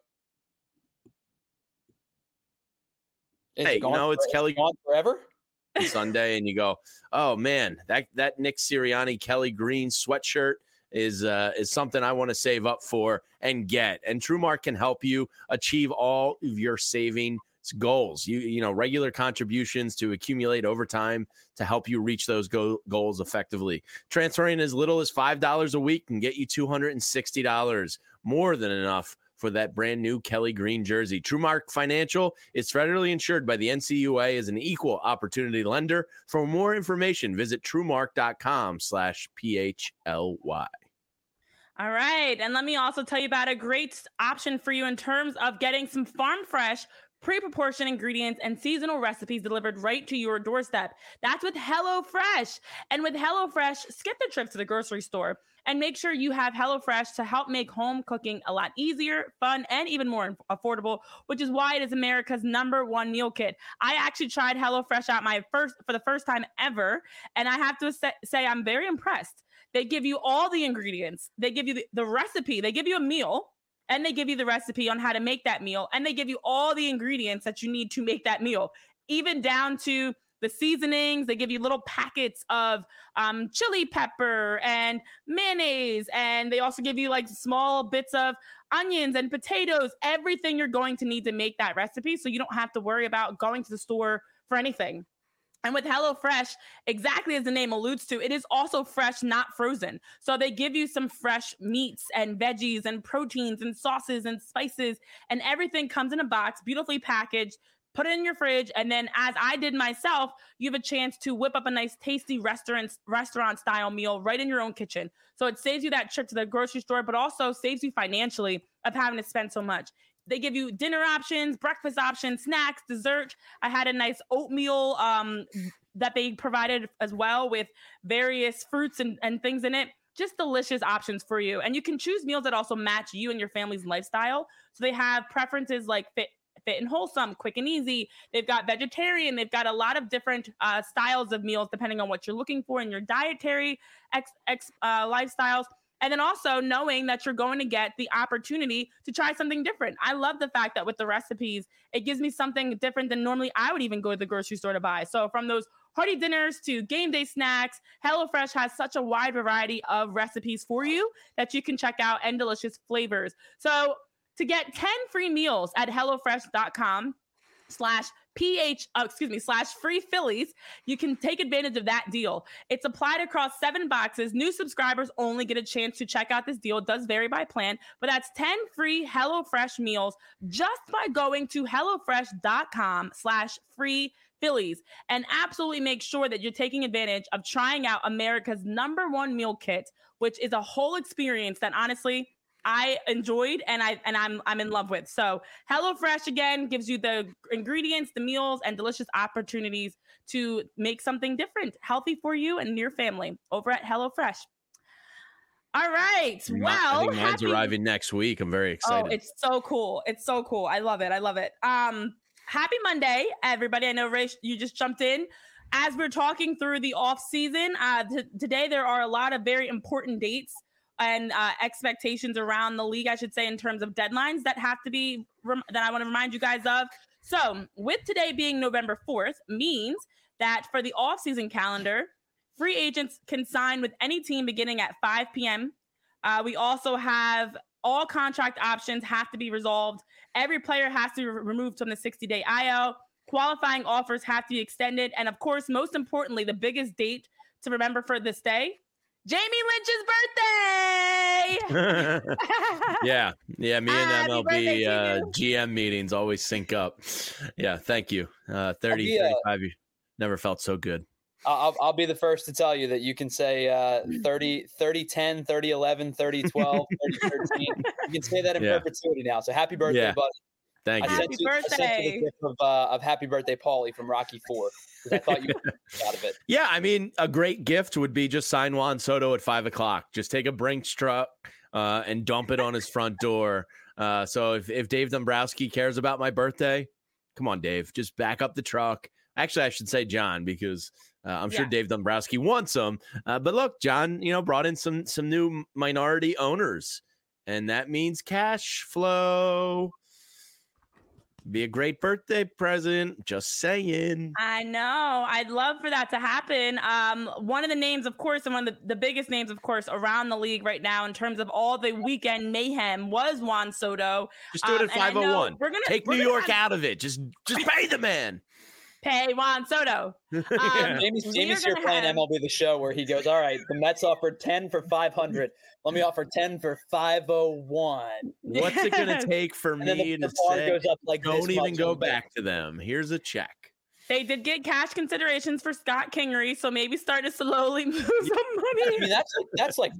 it's Kelly. Gone forever? Sunday and you go, oh man, that Nick Sirianni Kelly Green sweatshirt is something I want to save up for and get. And TrueMark can help you achieve all of your saving goals. You know, regular contributions to accumulate over time to help you reach those goals effectively. Transferring as little as $5 a week can get you $260, more than enough for that brand new Kelly Green jersey. TrueMark Financial is federally insured by the NCUA as an equal opportunity lender. For more information, visit truemark.com/PHLY. All right. And let me also tell you about a great option for you in terms of getting some farm fresh, pre-proportioned ingredients and seasonal recipes delivered right to your doorstep. That's with HelloFresh. And with HelloFresh, skip the trip to the grocery store and make sure you have HelloFresh to help make home cooking a lot easier, fun, and even more affordable, which is why it is America's #1 meal kit. I actually tried HelloFresh out for the first time ever, and I have to say I'm very impressed. They give you all the ingredients. They give you the recipe. They give you a meal, and they give you the recipe on how to make that meal, and they give you all the ingredients that you need to make that meal, even down to the seasonings. They give you little packets of chili pepper and mayonnaise, and they also give you like small bits of onions and potatoes, everything you're going to need to make that recipe, so you don't have to worry about going to the store for anything. And with HelloFresh, exactly as the name alludes to, it is also fresh, not frozen. So they give you some fresh meats and veggies and proteins and sauces and spices, and everything comes in a box, beautifully packaged. Put it in your fridge, and then, as I did myself, you have a chance to whip up a nice, tasty restaurant-style meal right in your own kitchen. So it saves you that trip to the grocery store, but also saves you financially of having to spend so much. They give you dinner options, breakfast options, snacks, dessert. I had a nice oatmeal that they provided as well with various fruits and things in it. Just delicious options for you. And you can choose meals that also match you and your family's lifestyle. So they have preferences like fit and wholesome, quick and easy. They've got vegetarian. They've got a lot of different styles of meals depending on what you're looking for in your dietary lifestyles. And then also knowing that you're going to get the opportunity to try something different. I love the fact that with the recipes, it gives me something different than normally I would even go to the grocery store to buy. So from those hearty dinners to game day snacks, HelloFresh has such a wide variety of recipes for you that you can check out, and delicious flavors. So to get 10 free meals at HelloFresh.com/free Phillies, you can take advantage of that deal. It's applied across 7 boxes. New subscribers only get a chance to check out this deal. It does vary by plan, but that's 10 free HelloFresh meals just by going to HelloFresh.com/free Phillies. And absolutely make sure that you're taking advantage of trying out America's #1 meal kit, which is a whole experience that honestly I enjoyed and I'm in love with. So HelloFresh again gives you the ingredients, the meals, and delicious opportunities to make something different, healthy for you and your family over at HelloFresh. All right. Well, I think mine's arriving next week. I'm very excited. Oh, it's so cool. It's so cool. I love it. I love it. Happy Monday, everybody. I know, Ray, you just jumped in. As we're talking through the off season, today there are a lot of very important dates and expectations around the league, I should say, in terms of deadlines that have to be that I want to remind you guys of. So with today being November 4th means that for the offseason calendar, free agents can sign with any team beginning at 5 p.m. We also have all contract options have to be resolved. Every player has to be removed from the 60-day IL. Qualifying offers have to be extended. And of course, most importantly, the biggest date to remember for this day, Jamie Lynch's birthday. Yeah. Me and MLB GM meetings always sync up. Yeah, thank you. 30, 35 years. Never felt so good. I'll be the first to tell you that you can say 30, 30-10, 30-11, 30-12, 30-13. You can say that in perpetuity now. So happy birthday, buddy. Thank you. Happy birthday. I sent you the gift of Happy Birthday, Paulie from Rocky IV. I thought you were out of it. Yeah, I mean, a great gift would be just sign Juan Soto at 5 o'clock. Just take a Brinks truck and dump it on his front door. So if Dave Dombrowski cares about my birthday, come on, Dave, just back up the truck. Actually, I should say John, because I'm sure Dave Dombrowski wants them. But look, John, brought in some new minority owners, and that means cash flow. Be a great birthday present. Just saying. I know. I'd love for that to happen. One of the names, of course, and one of the biggest names, of course, around the league right now in terms of all the weekend mayhem was Juan Soto. Just do it at 501. Take New York out of it. Just pay the man. Pay Juan Soto. Jamie's here playing MLB The Show where he goes, all right, the Mets offered 10 for 500. Let me offer 10 for 501. What's it going to take for me to say, goes up like don't even go back to them. Here's a check. They did get cash considerations for Scott Kingery, so maybe start to slowly move some money. I mean, that's like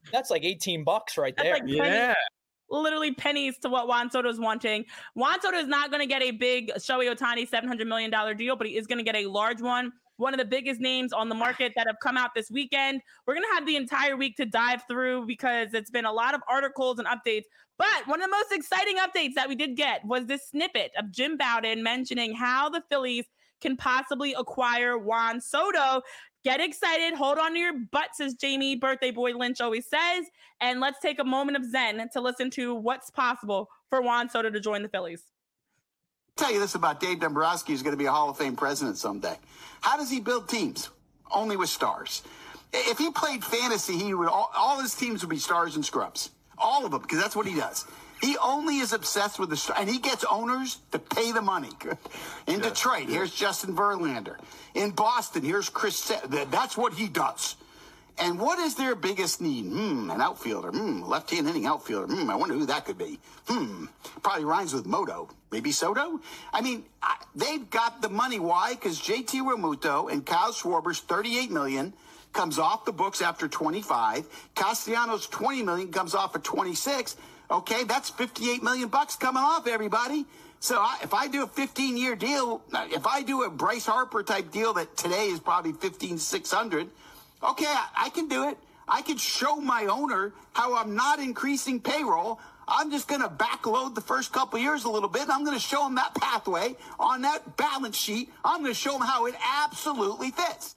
$18 right there. Like literally pennies to what Juan Soto is wanting. Juan Soto is not going to get a big Shohei Ohtani $700 million deal, but he is going to get a large one. One of the biggest names on the market that have come out this weekend. We're going to have the entire week to dive through because it's been a lot of articles and updates. But one of the most exciting updates that we did get was this snippet of Jim Bowden mentioning how the Phillies can possibly acquire Juan Soto. Get excited. Hold on to your butts, as Jamie Birthday Boy Lynch always says. And let's take a moment of zen to listen to what's possible for Juan Soto to join the Phillies. I'll tell you this about Dave Dombrowski, who's going to be a Hall of Fame president someday. How does he build teams? Only with stars. If he played fantasy, he would all his teams would be stars and scrubs. All of them, because that's what he does. He only is obsessed with the star, and he gets owners to pay the money. In Detroit, here's Justin Verlander. In Boston, here's Chris. That's what he does. And what is their biggest need? An outfielder. Left-hand hitting outfielder. I wonder who that could be. Probably rhymes with Moto. Maybe Soto? I mean, they've got the money. Why? Because JT Realmuto and Kyle Schwarber's $38 million comes off the books after 25. Castellanos' $20 million comes off at 26. Okay, that's $58 million coming off, everybody. So if I do a 15-year deal, if I do a Bryce Harper type deal that today is probably $15,600, okay, I can do it. I can show my owner how I'm not increasing payroll. I'm just going to backload the first couple of years a little bit, and I'm going to show them that pathway on that balance sheet. I'm going to show them how it absolutely fits.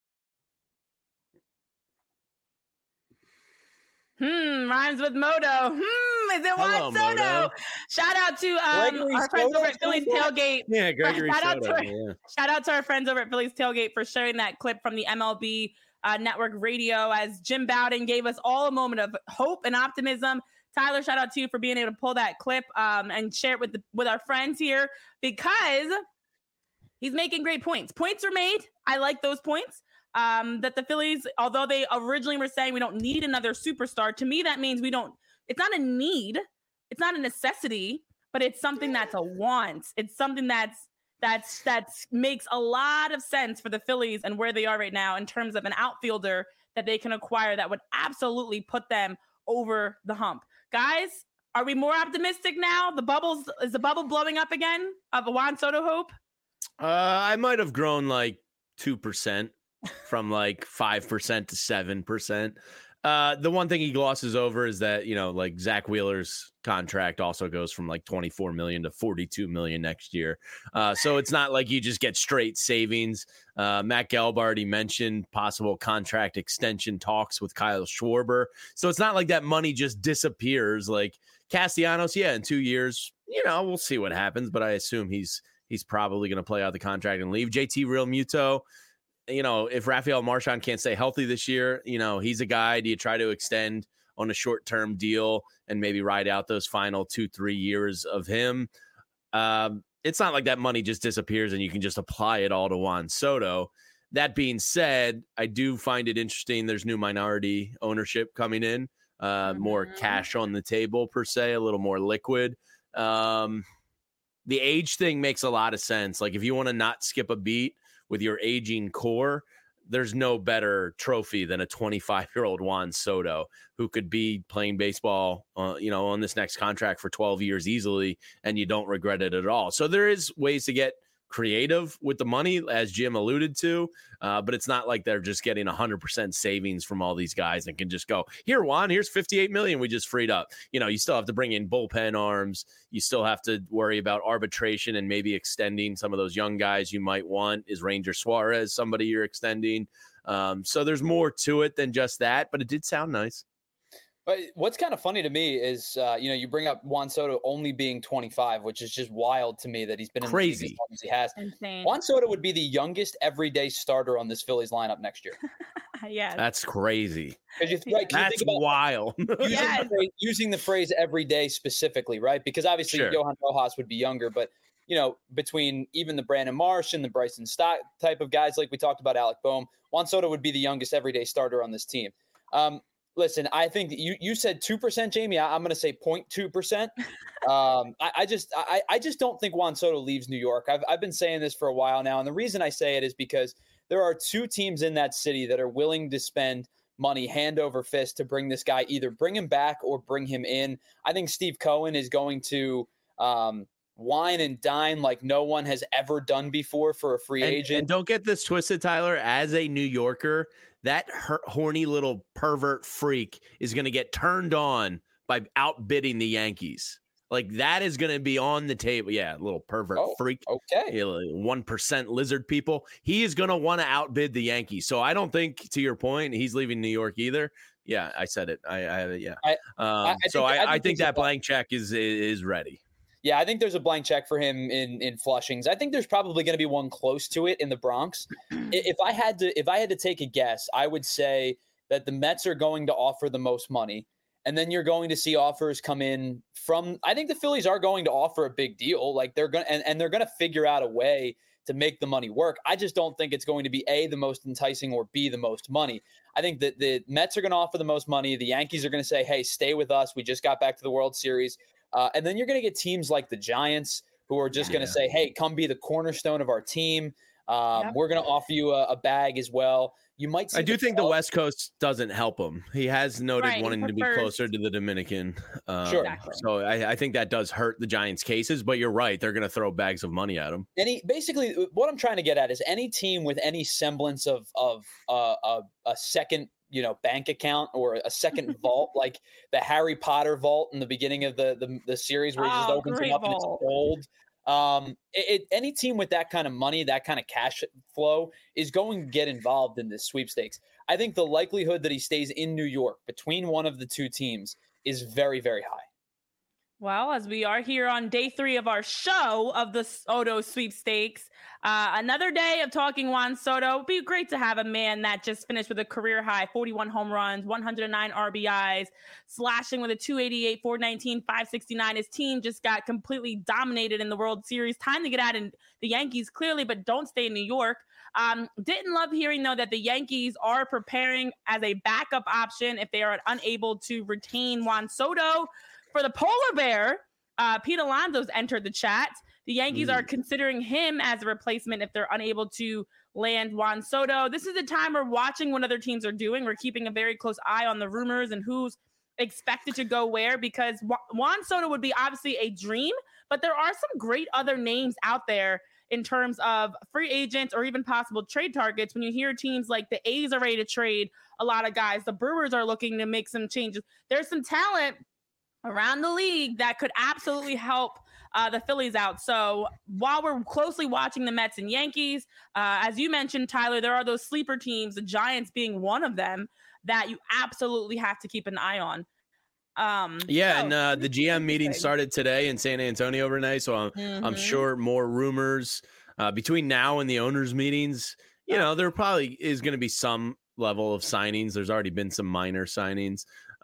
Rhymes with Moto. Is it Juan Soto? Moto. Shout out to our friends over at Phillies Tailgate. Yeah, Gregory Soto. Shout out to our friends over at Phillies Tailgate for sharing that clip from the MLB Network Radio as Jim Bowden gave us all a moment of hope and optimism. Tyler, shout out to you for being able to pull that clip and share it with our friends here because he's making great points. Points are made. I like those points. That the Phillies, although they originally were saying we don't need another superstar, to me that means it's not a need, it's not a necessity, but it's something that's a want. It's something that makes a lot of sense for the Phillies and where they are right now in terms of an outfielder that they can acquire that would absolutely put them over the hump. Guys, are we more optimistic now? Is the bubble blowing up again of a Juan Soto hope? I might have grown like 2%. From like 5% to 7%. The one thing he glosses over is that, like Zach Wheeler's contract also goes from like 24 million to 42 million next year. So it's not like you just get straight savings. Matt Gelb already mentioned possible contract extension talks with Kyle Schwarber. So it's not like that money just disappears. Like Castellanos, in 2 years, we'll see what happens, but I assume he's probably going to play out the contract and leave. JT Realmuto, if Rafael Marchand can't stay healthy this year, he's a guy. Do you try to extend on a short-term deal and maybe ride out those final 2-3 years of him? It's not like that money just disappears and you can just apply it all to Juan Soto. That being said, I do find it interesting. There's new minority ownership coming in, more cash on the table per se, a little more liquid. The age thing makes a lot of sense. Like if you want to not skip a beat with your aging core, there's no better trophy than a 25-year-old Juan Soto who could be playing baseball, on this next contract for 12 years easily, and you don't regret it at all. So there is ways to get creative with the money, as Jim alluded to, but it's not like they're just getting 100% savings from all these guys and can just go, here, Juan, here's 58 million we just freed up. You still have to bring in bullpen arms. You still have to worry about arbitration and maybe extending some of those young guys you might want. Is Ranger Suarez somebody you're extending? So there's more to it than just that, but it did sound nice. But what's kind of funny to me is, you bring up Juan Soto only being 25, which is just wild to me that he's been in the league as long as he has. Insane. Juan Soto would be the youngest everyday starter on this Phillies lineup next year. Yeah, that's crazy. That's wild. Using the phrase every day specifically, right? Because obviously Johan Rojas would be younger, but between even the Brandon Marsh and the Bryson Stott type of guys, like we talked about, Alec Boehm, Juan Soto would be the youngest everyday starter on this team. Listen, I think you said 2%, Jamie. I'm going to say 0.2%. I just don't think Juan Soto leaves New York. I've been saying this for a while now, and the reason I say it is because there are two teams in that city that are willing to spend money hand over fist to bring this guy, either bring him back or bring him in. I think Steve Cohen is going to wine and dine like no one has ever done before for a free agent. And don't get this twisted, Tyler. As a New Yorker, that horny little pervert freak is going to get turned on by outbidding the Yankees. Like, that is going to be on the table. Yeah, little pervert freak. Okay. 1% lizard people. He is going to want to outbid the Yankees. So I don't think, to your point, he's leaving New York either. Yeah, I said it. I think that blank check is ready. Yeah, I think there's a blank check for him in Flushings. I think there's probably going to be one close to it in the Bronx. If I had to take a guess, I would say that the Mets are going to offer the most money, and then you're going to see offers come in from. I think the Phillies are going to offer a big deal. Like they're going and they're going to figure out a way to make the money work. I just don't think it's going to be A, the most enticing, or B, the most money. I think that the Mets are going to offer the most money. The Yankees are going to say, "Hey, stay with us. We just got back to the World Series." And then you're going to get teams like the Giants who are just going to say, hey, come be the cornerstone of our team. We're going to offer you a bag as well. You might see I do think the West Coast doesn't help him. He has noted wanting to be closer to the Dominican. Sure. So I think that does hurt the Giants' cases, but you're right. They're going to throw bags of money at him. Basically, what I'm trying to get at is any team with any semblance of a second bank account or a second vault, like the Harry Potter vault in the beginning of the series where he just opens it up and it's gold. Any team with that kind of money, that kind of cash flow is going to get involved in this sweepstakes. I think the likelihood that he stays in New York between one of the two teams is very, very high. Well, as we are here on day 3 of our show of the Soto sweepstakes, another day of talking Juan Soto. It'd be great to have a man that just finished with a career high 41 home runs, 109 RBIs, slashing with a 288, 419, 569. His team just got completely dominated in the World Series. Time to get out in the Yankees, clearly, but don't stay in New York. Didn't love hearing, though, that the Yankees are preparing as a backup option if they are unable to retain Juan Soto. For the polar bear, Pete Alonso's entered the chat. The Yankees are considering him as a replacement if they're unable to land Juan Soto. This is a time we're watching what other teams are doing. We're keeping a very close eye on the rumors and who's expected to go where, because Juan Soto would be obviously a dream, but there are some great other names out there in terms of free agents or even possible trade targets. When you hear teams like the A's are ready to trade a lot of guys, the Brewers are looking to make some changes. There's some talent around the league that could absolutely help the Phillies out. So while we're closely watching the Mets and Yankees, as you mentioned, Tyler, there are those sleeper teams, the Giants being one of them, that you absolutely have to keep an eye on. The GM meeting started today in San Antonio, Renee. So I'm sure more rumors between now and the owners' meetings. There probably is going to be some level of signings. There's already been some minor signings.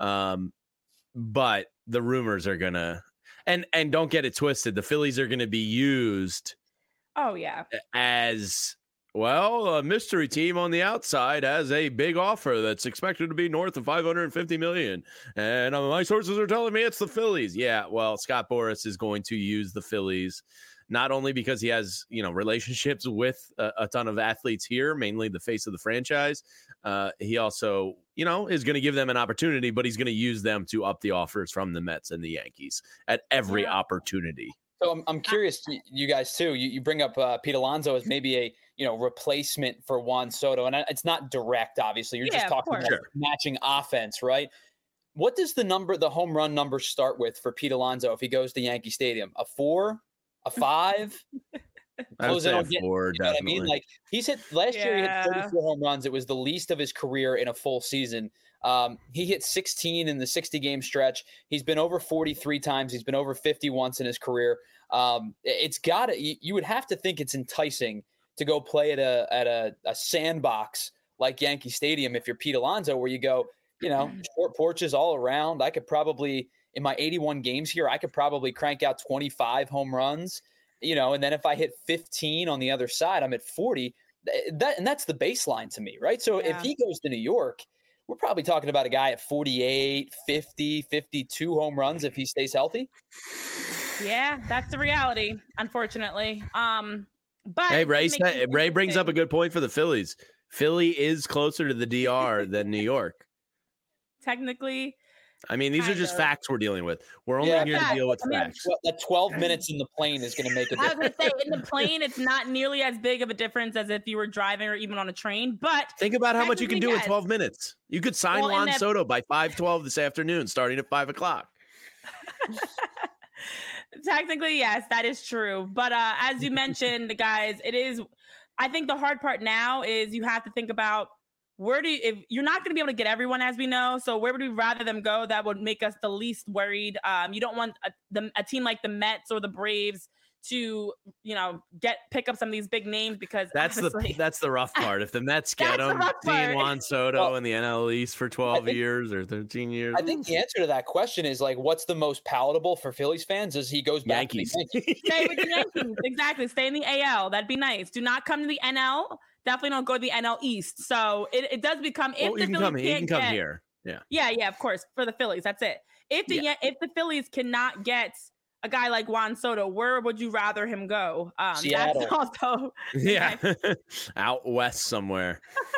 But the rumors are gonna, and don't get it twisted, the Phillies are gonna be used. Oh yeah, as well, a mystery team on the outside has a big offer that's expected to be north of $550 million, and my sources are telling me it's the Phillies. Yeah, well, Scott Boras is going to use the Phillies. Not only because he has, relationships with a ton of athletes here, mainly the face of the franchise, he also, is going to give them an opportunity, but he's going to use them to up the offers from the Mets and the Yankees at every opportunity. So I'm curious, you guys too. You bring up Pete Alonso as maybe a replacement for Juan Soto, and it's not direct, obviously. You're just talking about matching offense, right? What does the home run number start with for Pete Alonso if he goes to Yankee Stadium? A 4? A 5? I would say a 4, you know what I mean? Like he's hit last year, he hit 34 home runs. It was the least of his career in a full season. He hit 16 in the 60-game stretch. He's been over 43 times. He's been over 50 once in his career. It's got to. You would have to think it's enticing to go play at a sandbox like Yankee Stadium if you're Pete Alonso, where you go, short porches all around. I could probably, in my 81 games here, I could probably crank out 25 home runs, and then if I hit 15 on the other side, I'm at 40. And that's the baseline to me, right? So if he goes to New York, we're probably talking about a guy at 48, 50, 52 home runs if he stays healthy. Yeah, that's the reality, unfortunately. But hey, Ray brings up a good point for the Phillies. Philly is closer to the DR than New York. Technically. I mean, these are just facts we're dealing with. We're only here to deal with facts. That 12 minutes in the plane is going to make a difference. I was going to say, in the plane, it's not nearly as big of a difference as if you were driving or even on a train. But think about how much you can do in 12 minutes. You could sign Juan Soto by 5:12 this afternoon, starting at 5 o'clock. Technically, yes, that is true. But as you mentioned, guys, I think the hard part now is you have to think about if you're not going to be able to get everyone, as we know. So where would we rather them go that would make us the least worried? You don't want a team like the Mets or the Braves to, pick up some of these big names, because that's the rough part. If the Mets get them, seeing Juan Soto in the NL East for 12 years or 13 years. I think the answer to that question is what's the most palatable for Phillies fans is he goes back to the Yankees. Stay with the Yankees. Exactly. Stay in the AL. That'd be nice. Do not come to the NL. Definitely don't go to the NL East. So it does become, if the Phillies you can come here. Yeah, of course, for the Phillies. That's it. If the Phillies cannot get a guy like Juan Soto, where would you rather him go? Seattle. That's also out west somewhere.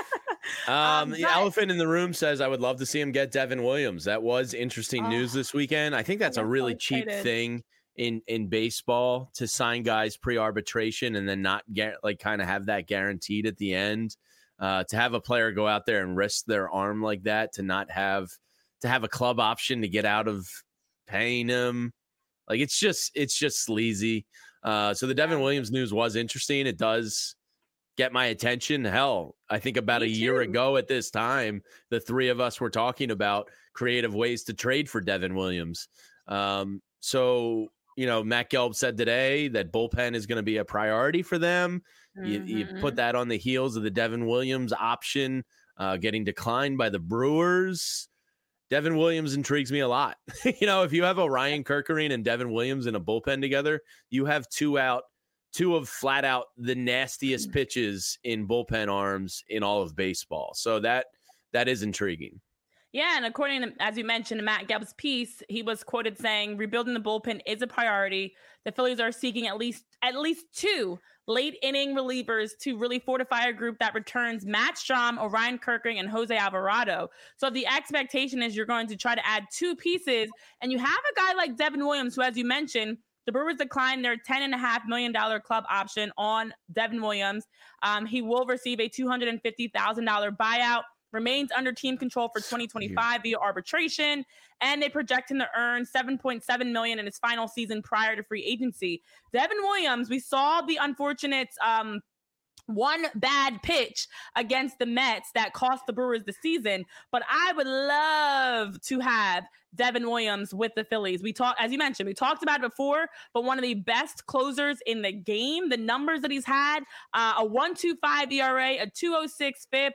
The elephant in the room says, I would love to see him get Devin Williams. That was interesting news this weekend. I think that's a really cheap thing in baseball, to sign guys pre-arbitration and then not get kind of have that guaranteed at the end. To have a player go out there and risk their arm like that, to have a club option to get out of paying him. It's just sleazy. So the Devin Williams news was interesting. It does get my attention. Hell, I think about a year ago at this time, the three of us were talking about creative ways to trade for Devin Williams. So, Matt Gelb said today that bullpen is going to be a priority for them. Mm-hmm. You put that on the heels of the Devin Williams option getting declined by the Brewers. Devin Williams intrigues me a lot. If you have Orion Kerkering and Devin Williams in a bullpen together, you have two of flat out the nastiest pitches in bullpen arms in all of baseball. So that is intriguing. Yeah, and according to, as you mentioned, Matt Gelb's piece, he was quoted saying, rebuilding the bullpen is a priority. The Phillies are seeking at least two late inning relievers to really fortify a group that returns Matt Strahm, Orion Kerkering, and Jose Alvarado. So the expectation is you're going to try to add two pieces, and you have a guy like Devin Williams, who, as you mentioned, the Brewers declined their $10.5 million club option on Devin Williams. He will receive a $250,000 buyout, remains under team control for 2025 via arbitration, and they project him to earn $7.7 million in his final season prior to free agency. Devin Williams, we saw the unfortunate one bad pitch against the Mets that cost the Brewers the season, but I would love to have Devin Williams with the Phillies. As you mentioned, we talked about it before, but one of the best closers in the game. The numbers that he's had, a 1.25 ERA, a 2.06 FIP,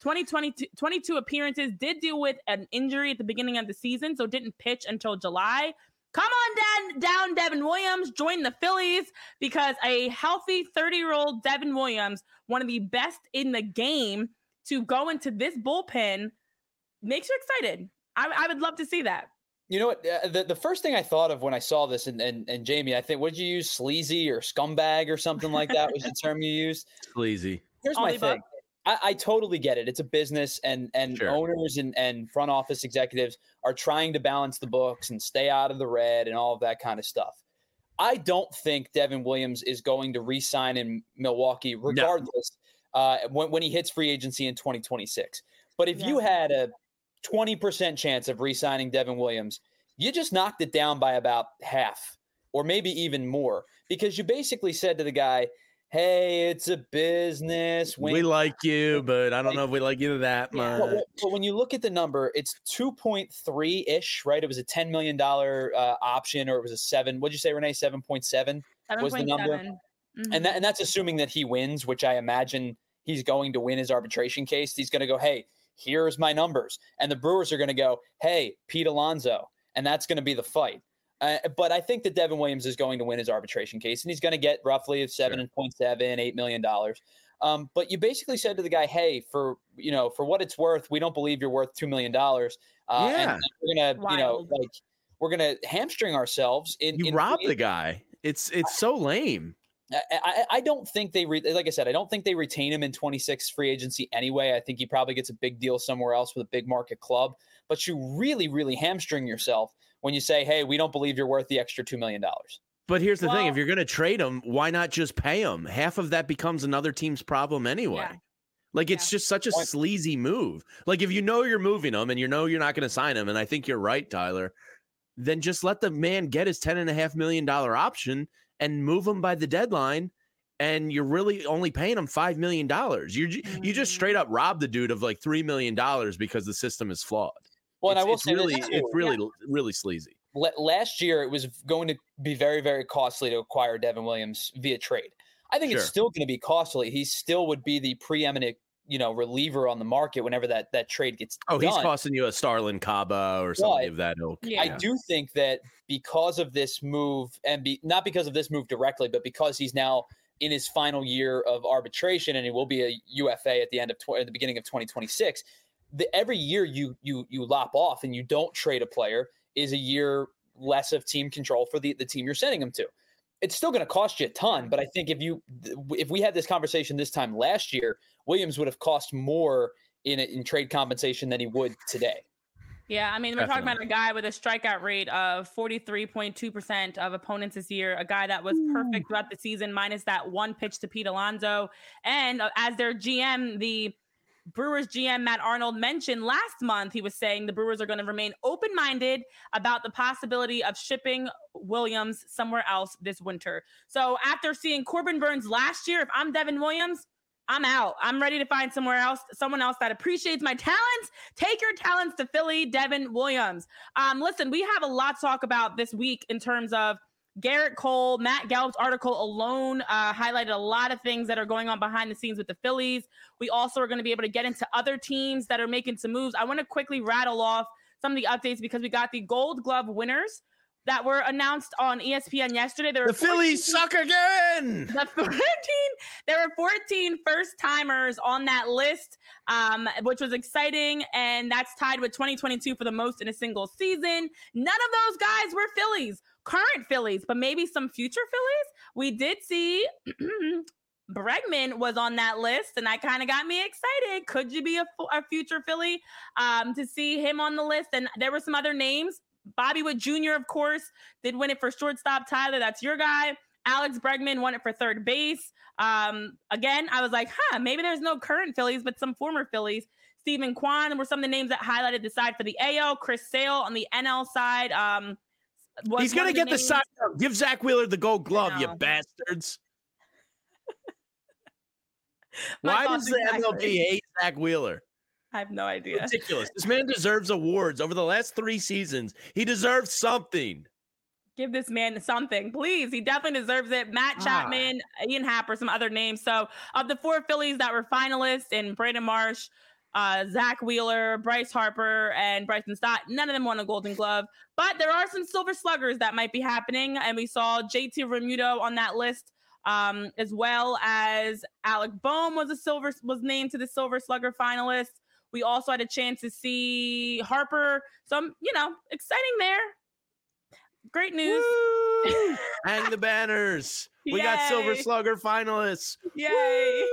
22 appearances, did deal with an injury at the beginning of the season, so didn't pitch until July. Come on down, Devin Williams. Join the Phillies, because a healthy 30-year-old Devin Williams, one of the best in the game, to go into this bullpen makes you excited. I would love to see that. You know what? The first thing I thought of when I saw this, and Jamie, I think, would you use sleazy or scumbag or something like that was the term you used? Sleazy. Here's my thing. I totally get it. It's a business, and sure, owners and front office executives are trying to balance the books and stay out of the red and all of that kind of stuff. I don't think Devin Williams is going to re-sign in Milwaukee regardless when he hits free agency in 2026. But if you had a 20% chance of re-signing Devin Williams, you just knocked it down by about half or maybe even more, because you basically said to the guy, hey, it's a business. We like you, but I don't know if we like you that much. But when you look at the number, it's 2.3-ish, right? It was a $10 million option, or it was a 7. What'd you say, Renee? 7.7 was the number. Mm-hmm. And that's assuming that he wins, which I imagine he's going to win his arbitration case. He's going to go, hey, here's my numbers. And the Brewers are going to go, hey, Pete Alonso. And that's going to be the fight. But I think that Devin Williams is going to win his arbitration case, and he's going to get roughly $7.7, $8 million. But you basically said to the guy, hey, for what it's worth, we don't believe you're worth $2 million. And we're going to, we're going to hamstring ourselves. You rob the guy. It's so lame. I don't think like I said, I don't think they retain him in 26 free agency anyway. I think he probably gets a big deal somewhere else with a big market club. But you really, really hamstring yourself when you say, hey, we don't believe you're worth the extra $2 million. But here's the thing. If you're going to trade him, why not just pay him? Half of that becomes another team's problem anyway. Yeah. It's just such a sleazy move. If you know you're moving him and you know you're not going to sign him, and I think you're right, Tyler, then just let the man get his $10.5 million option and move him by the deadline, and you're really only paying him $5 million. You just straight up rob the dude of $3 million because the system is flawed. Well, and I will say it's really sleazy. Last year, it was going to be very, very costly to acquire Devin Williams via trade. I think it's still going to be costly. He still would be the preeminent, reliever on the market whenever that trade gets done. He's costing you a Starlin Caba or something of that ilk. Yeah. I do think that because of this move, and not because of this move directly, but because he's now in his final year of arbitration and he will be a UFA at the beginning of 2026. Every year you lop off and you don't trade a player is a year less of team control for the team you're sending him to. It's still going to cost you a ton, but I think if we had this conversation this time last year, Williams would have cost more in trade compensation than he would today. Yeah, I mean, we're talking about a guy with a strikeout rate of 43.2% of opponents this year, a guy that was perfect throughout the season, minus that one pitch to Pete Alonso. And as their GM, the Brewers GM Matt Arnold mentioned last month, he was saying the Brewers are going to remain open-minded about the possibility of shipping Williams somewhere else this winter. So after seeing Corbin Burnes last year, if I'm Devin Williams, I'm out. I'm ready to find someone else that appreciates my talents. Take your talents to Philly, Devin Williams. Listen, we have a lot to talk about this week in terms of Garrett Cole. Matt Gallup's article alone highlighted a lot of things that are going on behind the scenes with the Phillies. We also are going to be able to get into other teams that are making some moves. I want to quickly rattle off some of the updates because we got the Gold Glove winners that were announced on ESPN yesterday. The Phillies suck again. There were 14 first-timers on that list, which was exciting, and that's tied with 2022 for the most in a single season. None of those guys were Phillies, current Phillies, but maybe some future Phillies. We did see Bregman was on that list, and that kind of got me excited. Could you be a future Philly to see him on the list? And there were some other names. Bobby Witt Jr., of course, did win it for shortstop. Tyler, that's your guy. Alex Bregman won it for third base. Again, I was like, maybe there's no current Phillies, but some former Phillies. Stephen Kwan were some of the names that highlighted the side for the AL. Chris Sale on the NL side. He's going to get the side. Give Zach Wheeler the Gold Glove, you bastards. Why does the MLB hate Zach Wheeler? I have no idea. Ridiculous. This man deserves awards over the last 3 seasons. He deserves something. Give this man something, please. He definitely deserves it. Matt Chapman, Ian Happ, some other names. So of the 4 Phillies that were finalists in Brandon Marsh, Zach Wheeler, Bryce Harper, and Bryson Stott, none of them won a Golden Glove. But there are some Silver Sluggers that might be happening. And we saw JT Realmuto on that list, as well as Alec Boehm was named to the Silver Slugger finalists. We also had a chance to see Harper. Some, exciting there. Great news. Hang the banners. We got Silver Slugger finalists. Yay.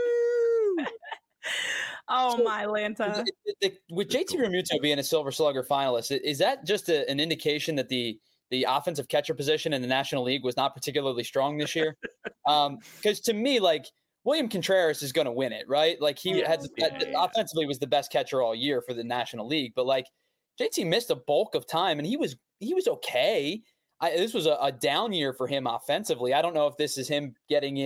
My Lanta. With JT Realmuto being a Silver Slugger finalist, is that just an indication that the offensive catcher position in the National League was not particularly strong this year? Because to me, William Contreras is going to win it, right? Offensively was the best catcher all year for the National League, but JT missed a bulk of time and he was okay. This was a down year for him offensively. I don't know if this is him getting in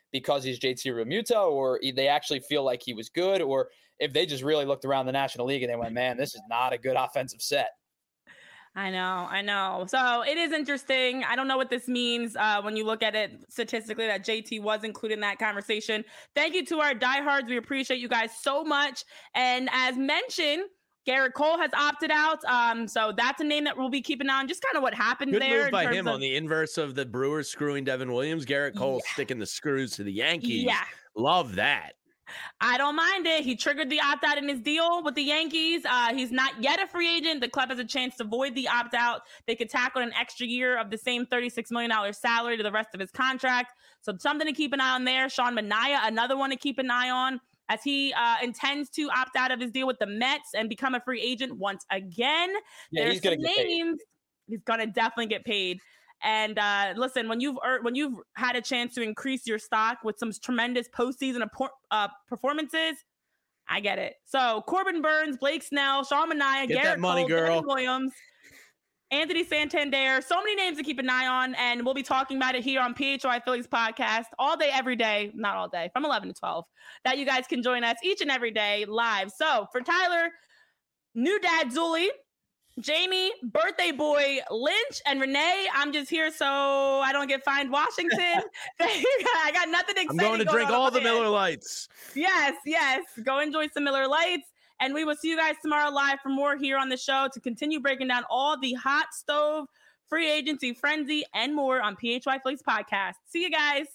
because he's JT Realmuto, or they actually feel like he was good, or if they just really looked around the National League and they went, man, this is not a good offensive set. I know. So it is interesting. I don't know what this means when you look at it statistically that JT was included in that conversation. Thank you to our diehards. We appreciate you guys so much. And as mentioned, Garrett Cole has opted out. So that's a name that we'll be keeping on. Just kind of what happened Good there. Move by him on the inverse of the Brewers screwing Devin Williams. Garrett Cole sticking the screws to the Yankees. Yeah. Love that. I don't mind it. He triggered the opt-out in his deal with the Yankees. He's not yet a free agent. The club has a chance to void the opt-out. They could tack on an extra year of the same $36 million salary to the rest of his contract. So something to keep an eye on there. Sean Manaea, another one to keep an eye on, as he intends to opt out of his deal with the Mets and become a free agent once again. Yeah, he's going to get paid. He's going to definitely get paid. And listen, when you've had a chance to increase your stock with some tremendous postseason performances, I get it. So Corbin Burns, Blake Snell, Sean Manaea, Garrett Cole, Devin Williams, Anthony Santander, so many names to keep an eye on, and we'll be talking about it here on PHY Phillies podcast all day, every day, not all day, from 11 to 12, that you guys can join us each and every day live. So for Tyler, new dad Zuli, Jamie, birthday boy Lynch, and Renee, I'm just here so I don't get fined Washington. I got nothing exciting. I'm going to drink all the Miller Lights. Yes. Go enjoy some Miller Lights. And we will see you guys tomorrow live for more here on the show to continue breaking down all the hot stove, free agency, frenzy, and more on PHY Phillies podcast. See you guys.